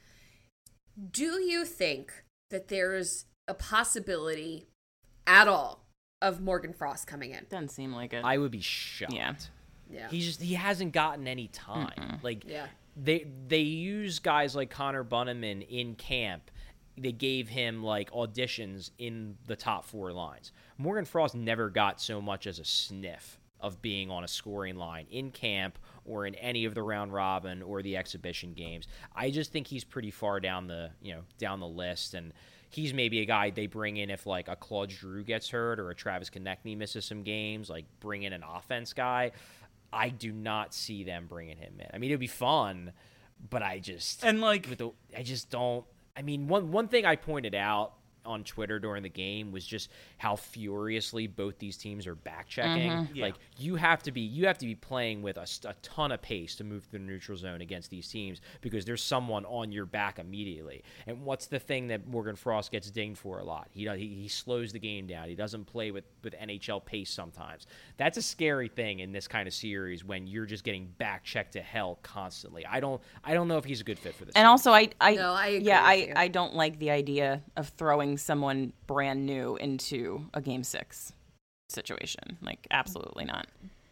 Do you think that there's a possibility at all of Morgan Frost coming in? Doesn't seem like it. I would be shocked. Yeah. Yeah. He just he hasn't gotten any time. Mm-mm. Like Yeah. they they use guys like Connor Bunnaman in camp. They gave him like auditions in the top four lines. Morgan Frost never got so much as a sniff of being on a scoring line in camp or in any of the round robin or the exhibition games. I just think he's pretty far down the, you know, down the list, and he's maybe a guy they bring in if like a Claude Giroux gets hurt or a Travis Konechny misses some games, like bring in an offense guy. I do not see them bringing him in. I mean, it'd be fun, but I just And like with the, I just don't. I mean, one one thing I pointed out on Twitter during the game was just how furiously both these teams are back checking. Mm-hmm. Yeah. Like you have to be you have to be playing with a, a ton of pace to move through the neutral zone against these teams, because there's someone on your back immediately. And what's the thing that Morgan Frost gets dinged for a lot? He he, he slows the game down. He doesn't play with, with N H L pace sometimes. That's a scary thing in this kind of series when you're just getting back checked to hell constantly. I don't I don't know if he's a good fit for this. And team. also, I, I, No, I agree yeah, with I, you. I don't like the idea of throwing someone brand new into a game six situation. Like, absolutely not.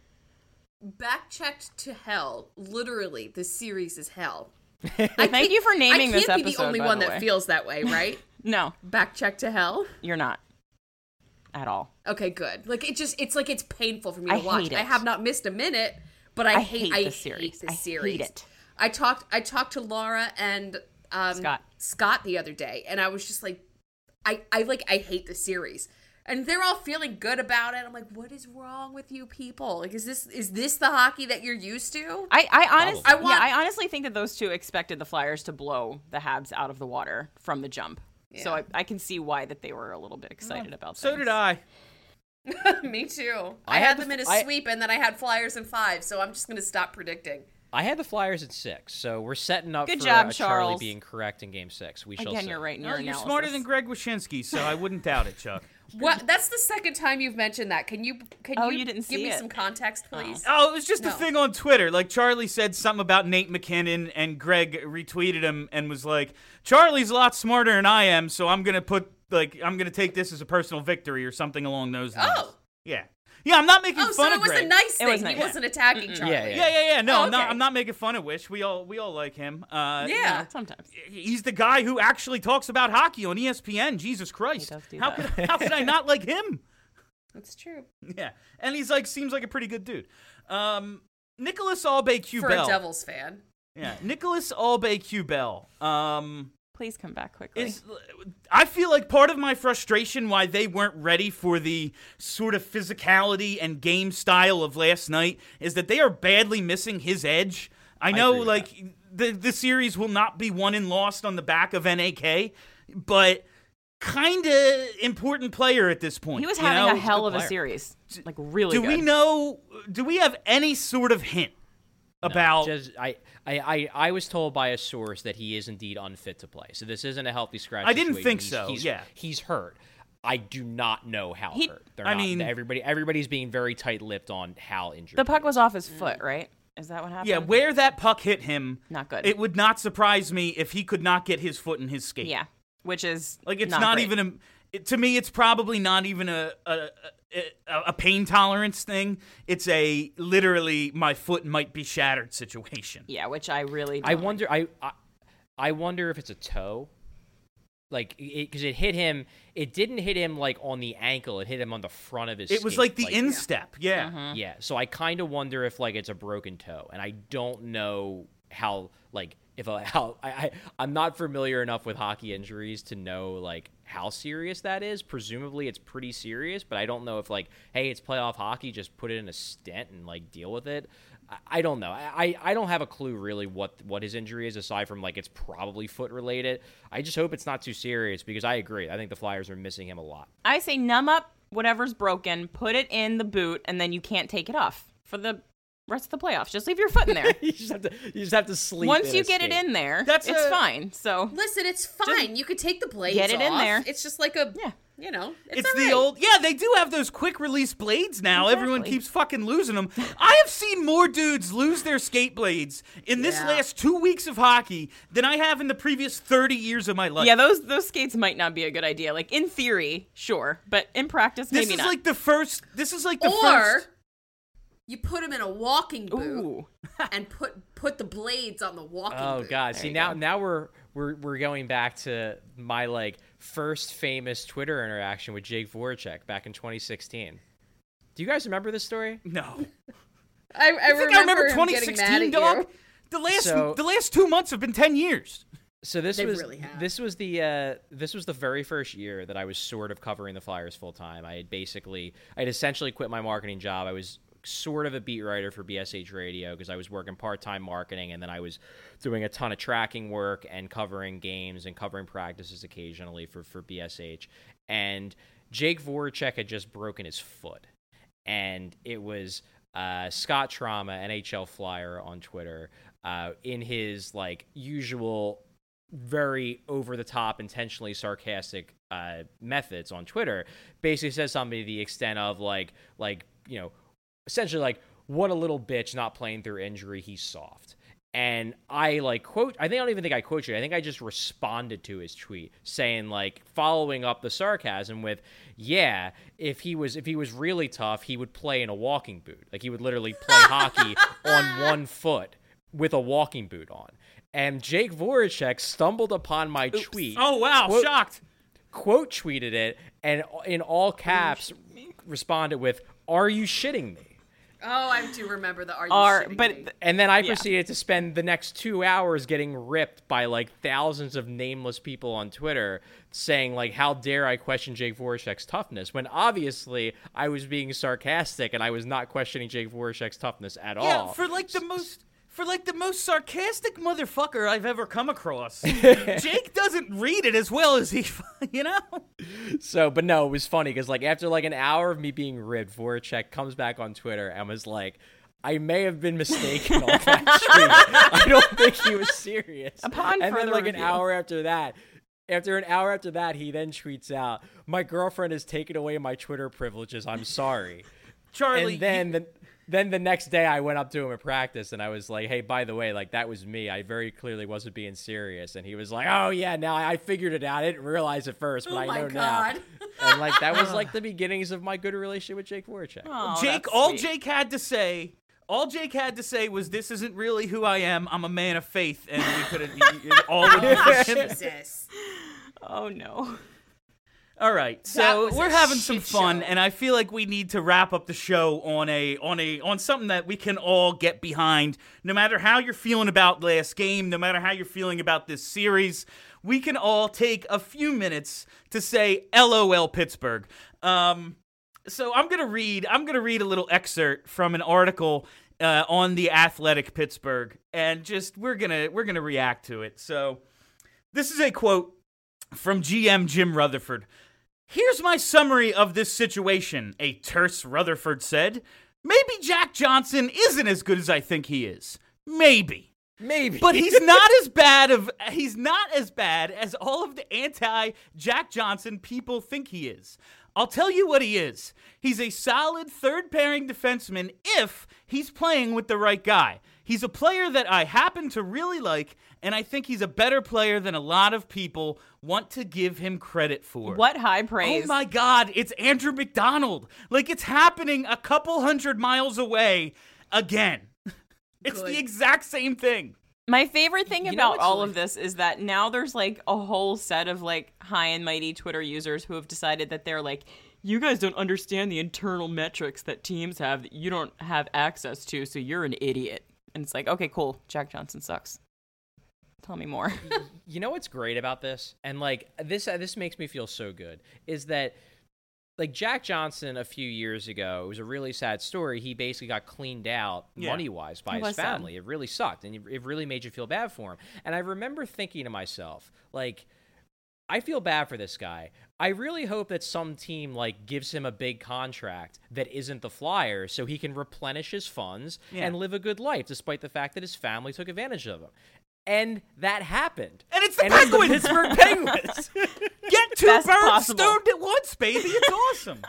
Back checked to hell. Literally, the series is hell. Thank you for naming I this can't be episode, the only by one the that way. feels that way, right? No, Back checked to hell. you're not at all. Okay, good. Like it just, it's like it's painful for me to I watch. hate it. I have not missed a minute, but I, I hate, hate I this series. hate this I hate series. it. I talked, I talked to Laura and um, Scott. Scott the other day, and I was just like, I, I like, I hate the series. And they're all feeling good about it. I'm like, what is wrong with you people? Like, is this is this the hockey that you're used to? I, I honestly, I want- yeah, I honestly think that those two expected the Flyers to blow the Habs out of the water from the jump. Yeah. So I, I can see why that they were a little bit excited about. So things. did I. Me too. I I, had had the them in a f- I- sweep, and then I had Flyers in five. So I'm just gonna stop predicting. I had the Flyers at six, so we're setting up Good for job, uh, Charlie Charles. being correct in Game Six. We shall Again, see. you're right in No, your you're analysis. smarter than Greg Wyshynski, so I wouldn't doubt it, Chuck. What? That's the second time you've mentioned that. Can you? Can Oh, you, you didn't give see me it. some context, please? Oh, it was just a No. thing on Twitter. Like, Charlie said something about Nate McKinnon, and Greg retweeted him and was like, Charlie's a lot smarter than I am, so I'm going to put, like, I'm going to take this as a personal victory or something along those lines. Oh. Yeah. Yeah, I'm not making Oh, fun so of it was Greg. a nice thing. was He nice. wasn't attacking Charlie. Yeah, Yeah, yeah, yeah. No, Oh, I'm not. okay. I'm not making fun of Wish. We all, we all like him. Uh, you Yeah. know, Sometimes. he's the guy who actually talks about hockey on E S P N. Jesus Christ! does do how that. could how could I not like him? That's true. Yeah, and he's like seems like a pretty good dude. Um, Nicholas Albay-Q For Bell. a Devils fan. Yeah, Nicholas Albay-Q Bell. Um, Please come back quickly. is I feel like part of my frustration why they weren't ready for the sort of physicality and game style of last night is that they are badly missing his edge. I know, agree with like the the series will not be won and lost on the back of N A K, but kind of important player at this point. he was you having know? a hell of a player. series. Like, really Do good. we know? Do we have any sort of hint No, about? just, I, I, I, I was told by a source that he is indeed unfit to play. So this isn't a healthy scratch. I didn't situation. think He's- so, He's, yeah. he's hurt. I do not know how He- hurt. They're I not, mean- everybody, everybody's being very tight-lipped on how injured. The puck he was is. off his foot, right? Is that what happened? Yeah, where that puck hit him, Not good. It would not surprise me if he could not get his foot in his skate. Yeah, which is Like, it's not, not, great. even a. It, to me, it's probably not even a a, a a pain tolerance thing. It's a literally my foot might be shattered situation. Yeah, which I really. Don't I like. wonder. I, I, I wonder if it's a toe. Like, because it, it hit him. It didn't hit him like on the ankle. It hit him on the front of his. It was skate. like the instep. Yeah. Mm-hmm. Yeah, so I kind of wonder if like it's a broken toe, and I don't know how like if a, how I, I I'm not familiar enough with hockey injuries to know like how serious that is. Presumably it's pretty serious, but I don't know if like hey it's playoff hockey, just put it in a stent and like deal with it. I, I don't know. I, I don't have a clue really what what his injury is aside from like it's probably foot related. I just hope it's not too serious because I agree. I think the Flyers are missing him a lot. I say numb up whatever's broken, put it in the boot, and then you can't take it off for the rest of the playoffs. Just leave your foot in there. you just have to you just have to sleep. Once in you a get it skate. in there, That's it's a- fine. So Listen, it's fine. You could take the blades Get it in off. there. It's just like a, Yeah. you know, it's, It's all the right. old, yeah, they do have those quick release blades now. Everyone Exactly. keeps fucking losing them. I have seen more dudes lose their skate blades in this Yeah. last two weeks of hockey than I have in the previous thirty years of my life. yeah, those those skates might not be a good idea. Like in theory, sure, but in practice, this maybe is not. like the first, this is like the Or first. you put them in a walking boot Ooh, and put put the blades on the walking Oh boot. god! See you now, go. now we're we're we're going back to my like first famous Twitter interaction with Jake Voracek back in twenty sixteen. Do you guys remember this story? No. I, I, I think remember I remember him twenty getting mad sixteen, at dog. you. The last, So- the last two months have been ten years. So this They was really have. this was the uh, this was the very first year that I was sort of covering the Flyers full time. I had basically I had essentially quit my marketing job. I was sort of a beat writer for B S H Radio because I was working part time marketing, and then I was doing a ton of tracking work and covering games and covering practices occasionally for for B S H. And Jake Voracek had just broken his foot, and it was uh, Scott Trauma, N H L Flyer on Twitter, uh, in his like usual very over-the-top, intentionally sarcastic uh, methods on Twitter, basically says something to the extent of like, like you know, essentially like, what a little bitch not playing through injury, he's soft. And I like quote, I think I don't even think I quoted it. I think I just responded to his tweet saying like, following up the sarcasm with, yeah, if he was if he was really tough, he would play in a walking boot. Like he would literally play hockey on one foot with a walking boot on. And Jake Voracek stumbled upon my tweet. Oh, wow. Quote- Shocked. Quote tweeted it, and in all caps responded with, "Are you shitting me?" Oh, I do remember the are you Are shitting but me? And then I Yeah. proceeded to spend the next two hours getting ripped by like thousands of nameless people on Twitter saying like, how dare I question Jake Voracek's toughness, when obviously I was being sarcastic and I was not questioning Jake Voracek's toughness at Yeah, all. for like the most for like the most sarcastic motherfucker I've ever come across. Jake doesn't read it as well as he, you know. So, but no, it was funny because like after like an hour of me being ribbed, Voracek comes back on Twitter and was like, I may have been mistaken on that tweet. I don't think he was serious. Upon and then further like an review. hour after that, after an hour after that, he then tweets out, my girlfriend has taken away my Twitter privileges. I'm sorry. Charlie, and then you- the then the next day I went up to him at practice and I was like, hey, by the way, like that was me. I very clearly wasn't being serious. And he was like, oh yeah, now I figured it out. I didn't realize it first, but Oh I my know God. now. And like that was like the beginnings of my good relationship with Jake Voracek. Oh, Jake, that's all sweet. Jake had to say, all Jake had to say was, "This isn't really who I am. I'm a man of faith," and we could have all would be forgiven. Jesus. Oh no. All right, That so was a we're having some shit fun, show. and I feel like we need to wrap up the show on a on a on something that we can all get behind. No matter how you're feeling about last game, no matter how you're feeling about this series, we can all take a few minutes to say "L O L Pittsburgh." Um, so I'm gonna read I'm gonna read a little excerpt from an article uh, on the Athletic Pittsburgh, and just we're gonna we're gonna react to it. So this is a quote from G M Jim Rutherford. Here's my summary of this situation, a terse Rutherford said. Maybe Jack Johnson isn't as good as I think he is. Maybe. Maybe. But he's not as bad of he's not as bad as all of the anti-Jack Johnson people think he is. I'll tell you what he is. He's a solid third-pairing defenseman if he's playing with the right guy. He's a player that I happen to really like, and I think he's a better player than a lot of people want to give him credit for. What high praise. Oh my God, it's Andrew McDonald. Like, it's happening a couple hundred miles away again. It's Good. the exact same thing. My favorite thing You know about what's all like- of this is that now there's like a whole set of like high and mighty Twitter users who have decided that they're like, you guys don't understand the internal metrics that teams have that you don't have access to, so you're an idiot. And it's like, okay, cool. Jack Johnson sucks. Tell me more. You know what's great about this, and like this uh, this makes me feel so good, is that like Jack Johnson a few years ago, it was a really sad story. He basically got cleaned out Yeah. money wise by It his was sad. family. It really sucked, and it really made you feel bad for him. And I remember thinking to myself, like, I feel bad for this guy. I really hope that some team like gives him a big contract that isn't the Flyers so he can replenish his funds Yeah. and live a good life despite the fact that his family took advantage of him. And that happened. And it's the And it's the Penguins. Pittsburgh Penguins. Get two Best birds possible. stoned at once, baby. It's awesome.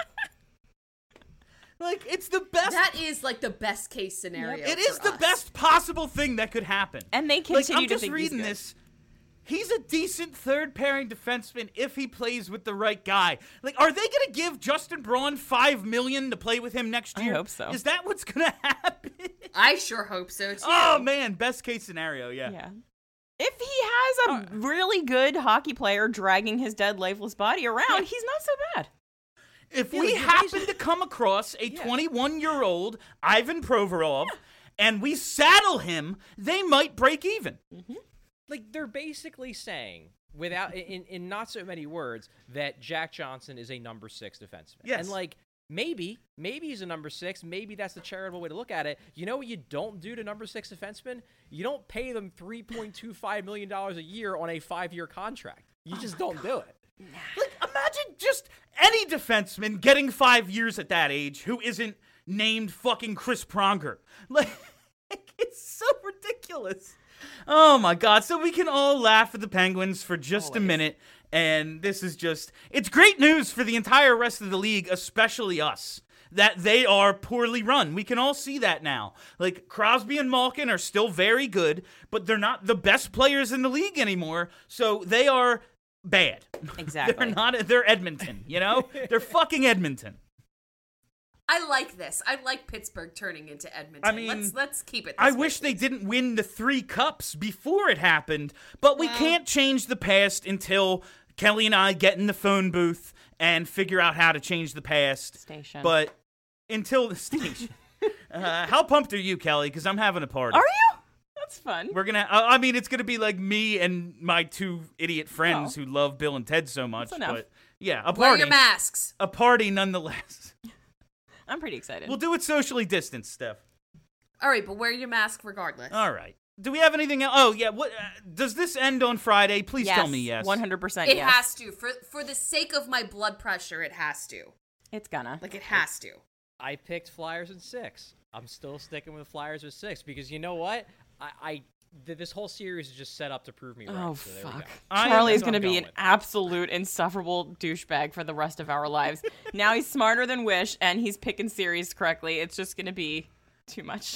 Like, it's the best. That is like the best case scenario. It is for the us. best possible thing that could happen. And they Like, continue I'm to just think he's reading good. this. He's a decent third pairing defenseman if he plays with the right guy. Like, are they going to give Justin Braun five million to play with him next I year? hope so. Is that what's going to happen? I sure hope so too. Oh man, best case scenario, yeah. Yeah. If he has a really good hockey player dragging his dead, lifeless body around, he's not so bad. If Yeah, we like, happen to come across a twenty-one-year-old Ivan Provorov and we saddle him, they might break even. Like, they're basically saying, without in, in not so many words, that Jack Johnson is a number six defenseman. Yes. And like, maybe, maybe he's a number six. Maybe that's the charitable way to look at it. You know what you don't do to number six defensemen? You don't pay them three point two five million dollars a year on a five-year contract. You just don't do it. Like, imagine just any defenseman getting five years at that age who isn't named fucking Chris Pronger. Like, it's so ridiculous. Oh my God. So we can all laugh at the Penguins for just a Always. minute. And this is just, it's great news for the entire rest of the league, especially us, that they are poorly run. We can all see that now. Like, Crosby and Malkin are still very good, but they're not the best players in the league anymore. So they are bad. Exactly. They're not, they're Edmonton, you know? They're fucking Edmonton. I like this. I like Pittsburgh turning into Edmonton. I mean, let's let's keep it. This I way, wish they please. didn't win the three cups before it happened, but we Well- can't change the past until Kelly and I get in the phone booth and figure out how to change the past. Station. But until the station. Uh, how pumped are you, Kelly? Because I'm having a party. Are you? That's fun. We're gonna. I mean, it's gonna be like me and my two idiot friends Oh. who love Bill and Ted so much. That's enough. But yeah, a Wear party. your masks. A party, nonetheless. I'm pretty excited. We'll do it socially distanced, Steph. All right, but wear your mask regardless. All right. Do we have anything else? Oh yeah. What uh, does this end on Friday? Please yes, tell me yes. one hundred percent It yes. has to. For for the sake of my blood pressure, it has to. It's gonna. Like, it has to. I picked Flyers in six. I'm still sticking with Flyers with six because you know what? I, I th- this whole series is just set up to prove me right. Oh, so there we fuck. go. I- Charlie's That's what going to I'm be going an with. absolute insufferable douchebag for the rest of our lives. Now he's smarter than Wish, and he's picking series correctly. It's just going to be too much.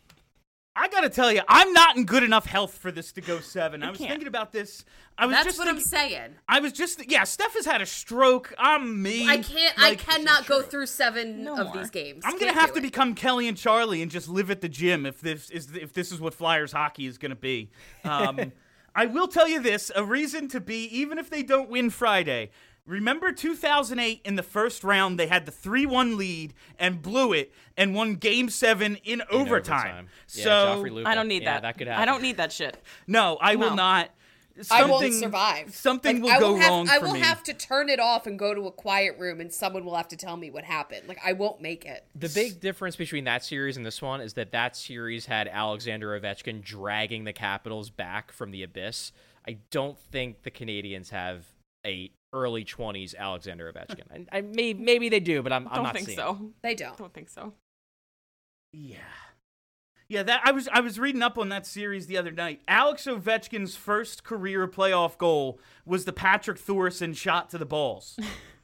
I gotta tell you, I'm not in good enough health for this to go seven. I was can't. thinking about this. I was That's just what I'm thinking, saying. I was just yeah. Steph has had a stroke. I'm me. I can't. I Like, cannot go through seven No of more. these games. I'm gonna Can't have do to it. become Kelly and Charlie and just live at the gym if this is if this is what Flyers hockey is gonna be. Um, I will tell you this: a reason to be, even if they don't win Friday. Remember two thousand eight in the first round, they had the three one lead and blew it and won Game Seven in, In overtime. Yeah, So Joffrey Lupul. I don't need yeah, that. That could happen. I don't need that shit. no, I will No. not. I Something, won't survive. Something Like, will I go will have, wrong I for will me. have to turn it off and go to a quiet room, and someone will have to tell me what happened. Like, I won't make it. The big difference between that series and this one is that that series had Alexander Ovechkin dragging the Capitals back from the abyss. I don't think the Canadians have a early twenties Alexander Ovechkin. And I may, maybe they do, but I'm, I'm Don't not think seeing so. it. They don't. Don't think so. Yeah. Yeah, that I was I was reading up on that series the other night. Alex Ovechkin's first career playoff goal was the Patrick Thorson shot to the balls.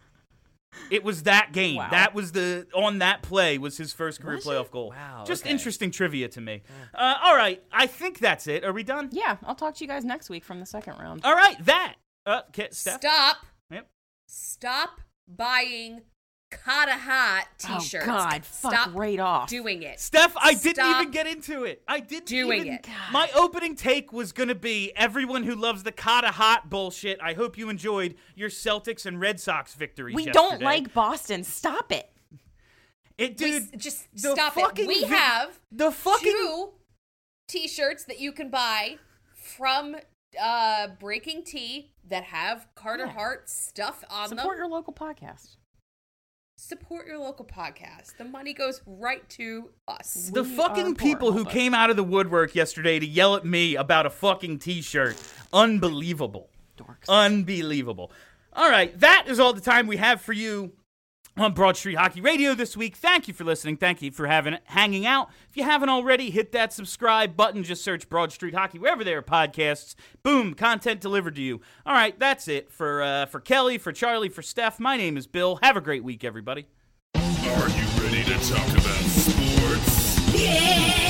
It was that game. Wow. That was the on that play was his first career Was playoff it? goal. Wow, Just okay. interesting trivia to me. Uh, all right, I think that's it. Are we done? Yeah, I'll talk to you guys next week from the second round. All right, that. Uh, okay, Steph. Stop. Yep. Stop buying Kata Hat t-shirts. Oh, God. Fuck Stop right off. doing it. Steph, I didn't Stop even get into it. I didn't doing even. it. My opening take was going to be everyone who loves the Kata Hot bullshit. I hope you enjoyed your Celtics and Red Sox victories. We yesterday. don't like Boston. Stop it. it, We dude. s- just the stop it. fucking We vi- have the fucking two t-shirts that you can buy from uh, Breaking Tea that have Carter Yeah. Hart stuff on them. Support your local podcast. Support your local podcast. The money goes right to us. the We are fucking poor, people who help us. came out of the woodwork yesterday to yell at me about a fucking T-shirt. Unbelievable. Dorks. Unbelievable. All right, that is all the time we have for you on Broad Street Hockey Radio this week. Thank you for listening. Thank you for having hanging out. If you haven't already, hit that subscribe button. Just search Broad Street Hockey wherever there are podcasts. Boom, content delivered to you. All right, that's it for uh, for Kelly, for Charlie, for Steph. My name is Bill. Have a great week, everybody. Are you ready to talk about sports? Yeah!